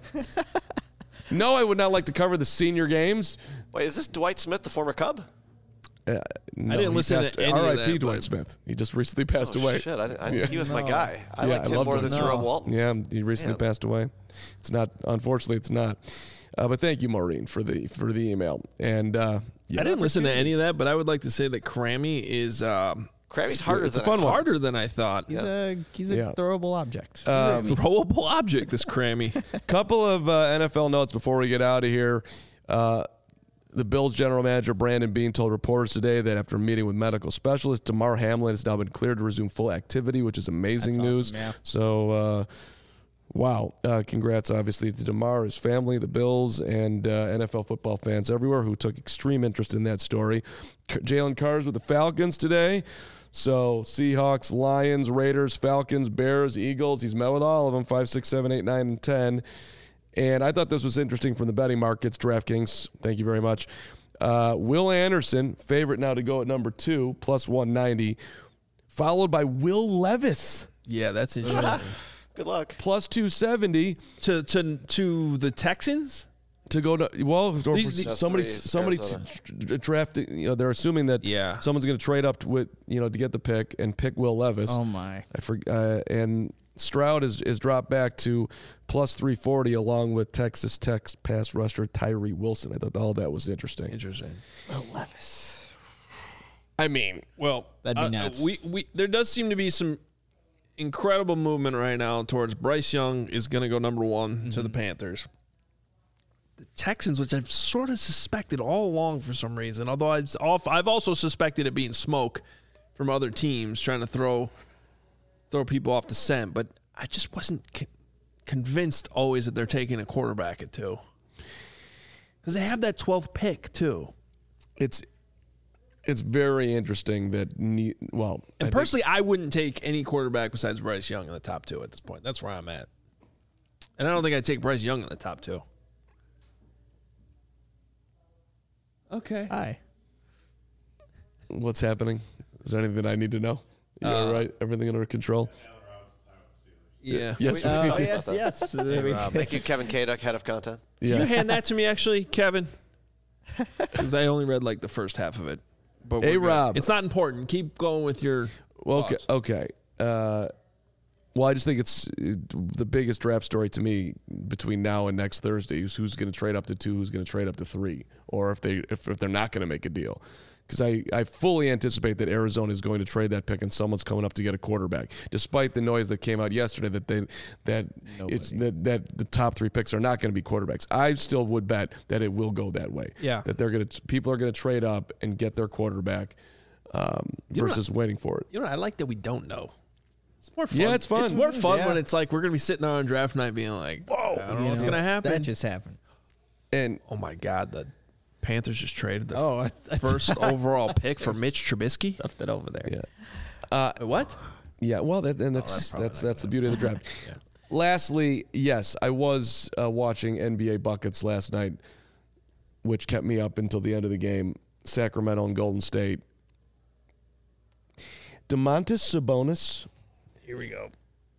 S2: No, I would not like to cover the Senior Games.
S3: Wait, is this Dwight Smith, the former Cub?
S2: Uh, no,
S1: didn't
S2: he
S1: listen
S2: passed-
S1: to any of
S2: R I P
S1: that,
S2: Dwight
S1: but-
S2: Smith. He just recently passed
S3: Oh,
S2: away.
S3: shit. I, I,
S2: Yeah.
S3: He was my
S4: No.
S3: guy. I
S2: Yeah,
S3: liked
S2: I
S3: him
S2: loved
S3: more
S2: him.
S3: than
S4: No.
S3: Jerome Walton.
S2: Yeah, he recently
S3: Man.
S2: passed away. It's not, unfortunately, it's not. Uh, but thank you, Maureen, for the for the email. And uh, yeah,
S1: I didn't listen to any of that, but I would like to say that Crammy is um,
S3: Crammy's harder
S2: it's a
S3: than
S2: fun
S3: I
S2: one.
S3: thought.
S1: harder than I thought.
S4: he's a he's a
S2: Yeah.
S4: throwable object.
S2: Um,
S1: Throwable object, this Crammy.
S2: couple of uh, N F L notes before we get out of here. Uh, the Bills general manager, Brandon Beane, told reporters today that after meeting with medical specialists, Damar Hamlin has now been cleared to resume full activity, which is amazing
S4: That's
S2: news.
S4: awesome, yeah.
S2: So, uh, wow. Uh, congrats, obviously, to Damar, his family, the Bills, and uh, N F L football fans everywhere who took extreme interest in that story. K- Jalen Carr's with the Falcons today. So Seahawks, Lions, Raiders, Falcons, Bears, Eagles. He's met with all of them, five, six, seven, eight, nine, and ten. And I thought this was interesting from the betting markets. DraftKings, thank you very much. Uh, Will Anderson, favorite now to go at number two, plus one ninety, followed by Will Levis,
S1: Yeah, that's interesting.
S3: Good luck.
S2: plus two seventy
S1: to to to the Texans.
S2: to go to. Well, or
S1: These-
S3: That's
S2: somebody,
S3: three is
S2: somebody
S3: Arizona.
S2: drafting. You know, they're assuming that
S1: Yeah.
S2: someone's going to trade up to, with you know to get the pick and pick Will Levis.
S4: Oh my!
S2: I forget. Uh, and Stroud is is dropped back to plus three forty, along with Texas Tech's pass rusher Tyree Wilson. I thought all that was interesting.
S1: Interesting.
S4: Will Levis.
S2: I mean,
S1: Well,
S4: That'd be
S1: uh,
S4: nuts.
S1: we we there does seem to be some incredible movement right now towards Bryce Young is going to go number one
S2: Mm-hmm.
S1: to the Panthers. The Texans, which I've sort of suspected all along for some reason, although I've off, I've also suspected it being smoke from other teams trying to throw throw people off the scent, but I just wasn't co- convinced always that they're taking a quarterback at two. Because they have that twelfth pick too.
S2: it's it's very interesting that ne- well, I
S1: And
S2: think-
S1: personally, I wouldn't take any quarterback besides Bryce Young in the top two at this point. That's where I'm at. And I don't think I'd take Bryce Young in the top two. Okay.
S4: Hi.
S2: What's happening? Is there anything I need to know? You
S1: Uh,
S2: all right? Everything under control?
S1: Yeah.
S2: Yes.
S3: We- we
S4: Oh,
S3: talked
S4: yes,
S3: about
S4: yes. There we go.
S3: Thank you, Kevin Kaduk, head of content.
S1: Can you
S2: Yeah.
S1: hand that to me, actually, Kevin? Because I only read like the first half of it. But we're
S2: Hey,
S1: good.
S2: Rob.
S1: It's not important. Keep going with your.
S2: Well, okay.
S1: thoughts.
S2: Okay. Uh, well, I just think it's uh, the biggest draft story to me between now and next Thursday is who's going to trade up to two, who's going to trade up to three, or if they if, if they're not going to make a deal. Because I, I fully anticipate that Arizona is going to trade that pick and someone's coming up to get a quarterback, despite the noise that came out yesterday that they that it's that, that the top three picks are not going to be quarterbacks. I still would bet that it will go that way.
S1: Yeah.
S2: That they're going to people are going to trade up and get their quarterback um,
S1: You know
S2: versus waiting for it.
S1: You know, I like that we don't know. It's more fun.
S2: Yeah, it's fun.
S1: It's more fun
S4: Yeah.
S1: when it's like we're gonna be sitting there on draft night, being like, "Whoa, I don't know what's gonna happen."
S5: That just happened.
S2: And
S1: Oh my God, the Panthers just traded the
S4: Oh, I, I
S1: first overall pick for Mitch Trubisky.
S4: stuffed it over there.
S2: yeah. Uh,
S1: Wait, what?
S2: Yeah, well, that, and that's
S1: that's probably
S2: that's
S1: not
S2: that's the beauty of the draft. Lastly, yes, I was uh, watching N B A buckets last night, which kept me up until the end of the game. Sacramento and Golden State. Domantas Sabonis.
S1: Here we go.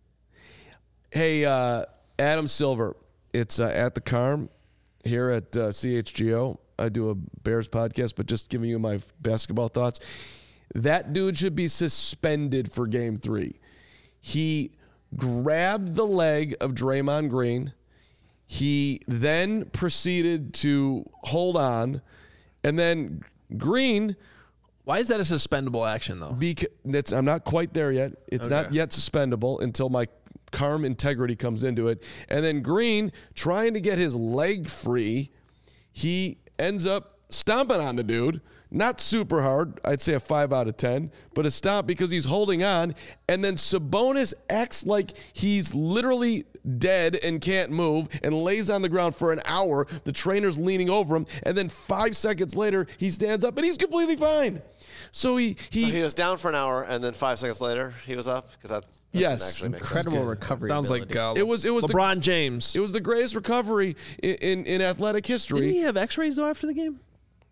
S2: Hey, uh, Adam Silver. It's uh, at the Carm here at uh, C H G O. I do a Bears podcast, but just giving you my basketball thoughts. That dude should be suspended for game three. He grabbed the leg of Draymond Green. He then proceeded to hold on. And then Green,
S1: Why is that a suspendable action, though?
S2: beca- that's, I'm not quite there yet. It's not
S1: Okay.
S2: yet suspendable until my Carm integrity comes into it. And then Green, trying to get his leg free, he ends up stomping on the dude. Not super hard. I'd say a five out of ten, but a stomp because he's holding on. And then Sabonis acts like he's literally dead and can't move and lays on the ground for an hour. The trainer's leaning over him. And then five seconds later, he stands up and he's completely fine. So he, he,
S3: So he was down for an hour, and then five seconds later, he was up because that, that
S2: Yes.
S3: didn't actually make sense.
S5: Incredible recovery.
S1: Sounds
S5: ability.
S1: like uh,
S2: It was- it was the-
S1: LeBron James.
S2: it was the greatest recovery in, in, in athletic history.
S1: Didn't he have X-rays though after the game?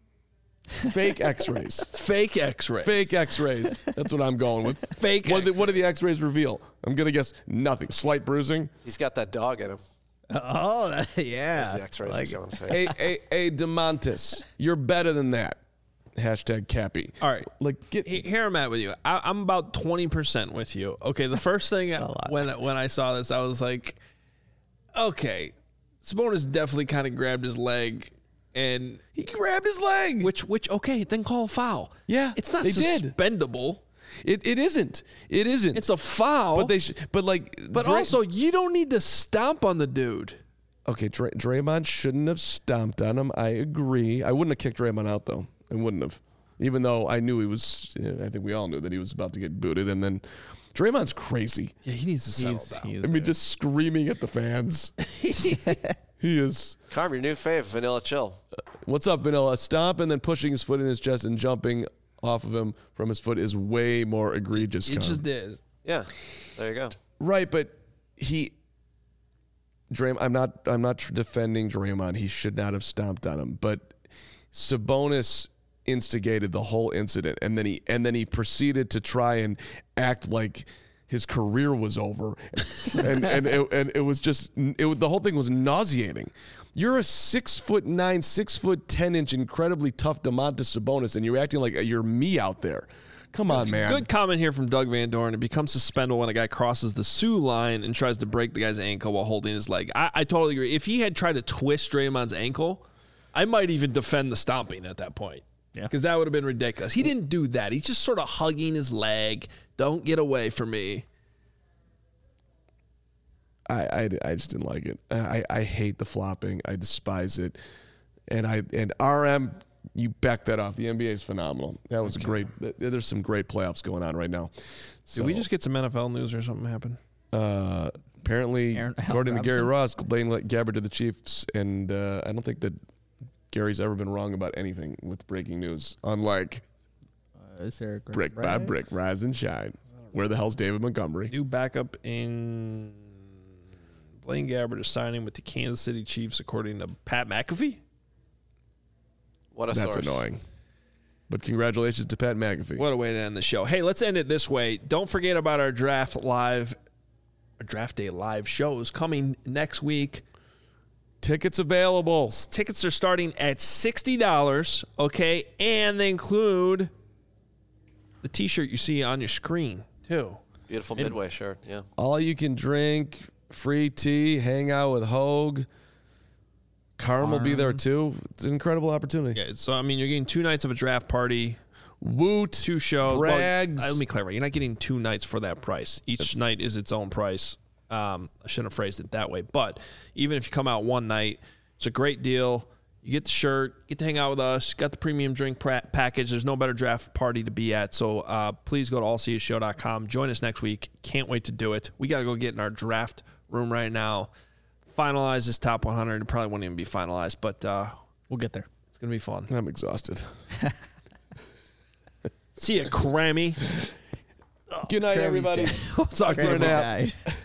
S2: Fake x-rays.
S1: Fake X-rays.
S2: Fake x-rays. That's what I'm going with.
S1: Fake
S2: What, did the, what did the x-rays reveal? I'm going to guess nothing. Slight bruising.
S3: He's got that dog in him.
S4: Oh, that,
S3: There's
S4: yeah.
S3: the X-rays.
S4: Like
S3: is what I'm saying.
S2: A, a, a DeMontis. You're better than that. Hashtag Cappy.
S1: All right.
S2: Like, get,
S1: He- Here I'm at with you. I, I'm about twenty percent with you. Okay, the first thing
S4: a lot.
S1: when when I saw this, I was like, okay, Sabonis definitely kind of grabbed his leg, and
S2: he grabbed his leg.
S1: which which okay, then call a foul.
S2: Yeah,
S1: it's not
S2: they did.
S1: suspendable.
S2: It, it isn't. It isn't.
S1: It's a foul.
S2: But they. Sh- but like.
S1: But
S2: Dray-
S1: also, you don't need to stomp on the dude.
S2: Okay, Dray- Draymond shouldn't have stomped on him. I agree. I wouldn't have kicked Draymond out though. I wouldn't have. Even though I knew he was. I think we all knew that he was about to get booted, and then Draymond's crazy.
S1: Yeah, he needs to settle
S4: He's,
S1: down.
S4: he is
S2: I mean,
S4: a-
S2: just screaming at the fans. He is.
S3: Carm, your new fave, Vanilla Chill.
S2: What's up, Vanilla? Stomp and then pushing his foot in his chest and jumping off of him from his foot is way more egregious.
S1: It
S2: Con.
S1: just is.
S3: Yeah, there you go.
S2: Right, but he. Draymond, I'm not. I'm not tr- defending Draymond. He should not have stomped on him. But Sabonis instigated the whole incident, and then he and then he proceeded to try and act like his career was over, and and it, and it was just it, was- the whole thing was nauseating. You're a six foot nine, six foot ten inch, incredibly tough Domantas Sabonis, and you're acting like you're me out there. Come on, man.
S1: Good comment here from Doug Van Dorn. It becomes suspendable when a guy crosses the Sioux line and tries to break the guy's ankle while holding his leg. I, I totally agree. If he had tried to twist Draymond's ankle, I might even defend the stomping at that point.
S4: Yeah.
S1: Because that would have been ridiculous. He didn't do that. He's just sort of hugging his leg. Don't get away from me.
S2: I, I, I just didn't like it. I, I hate the flopping. I despise it. And I and R M, you back that off. The N B A is phenomenal. That was great. There's some great playoffs going on right now. So,
S1: Did we just get some N F L news or something happen?
S2: uh, apparently,
S5: Aaron- Allen
S2: according to Gary
S5: Robinson?
S2: Ross, Blaine Gabbert to the Chiefs, and uh, I don't think that Gary's ever been wrong about anything with breaking news. Unlike
S5: Uh, is there a great
S2: brick by
S5: break?
S2: brick, rise and shine. Where the hell's David Montgomery?
S1: New backup in Blaine Gabbert is signing with the Kansas City Chiefs, according to Pat McAfee.
S3: What a
S2: That's
S3: source.
S2: annoying. But congratulations to Pat McAfee.
S1: What a way to end the show. Hey, let's end it this way. Don't forget about our draft live, our draft day live shows coming next week.
S2: Tickets available.
S1: Tickets are starting at sixty dollars, okay? And they include the T-shirt you see on your screen, too.
S3: Beautiful Midway shirt, yeah.
S2: All you can drink, free tea, hang out with Hogue. Carm will be there, too. It's an incredible opportunity.
S1: Yeah, so, I mean, you're getting two nights of a draft party.
S2: Woot.
S1: Two shows.
S2: Brags.
S1: Well, let me clarify. You're not getting two nights for that price. Each That's, night is its own price. Um, I shouldn't have phrased it that way. But even if you come out one night, it's a great deal. You get the shirt, get to hang out with us, got the premium drink pra- package. There's no better draft party to be at. So uh, please go to all c s show dot com. Join us next week. Can't wait to do it. We got to go get in our draft room right now. Finalize this top one hundred. It probably won't even be finalized, but uh,
S4: we'll get there.
S1: It's going to be fun.
S2: I'm exhausted.
S1: See ya, Crammy.
S2: Good night, everybody.
S1: We'll talk to you now.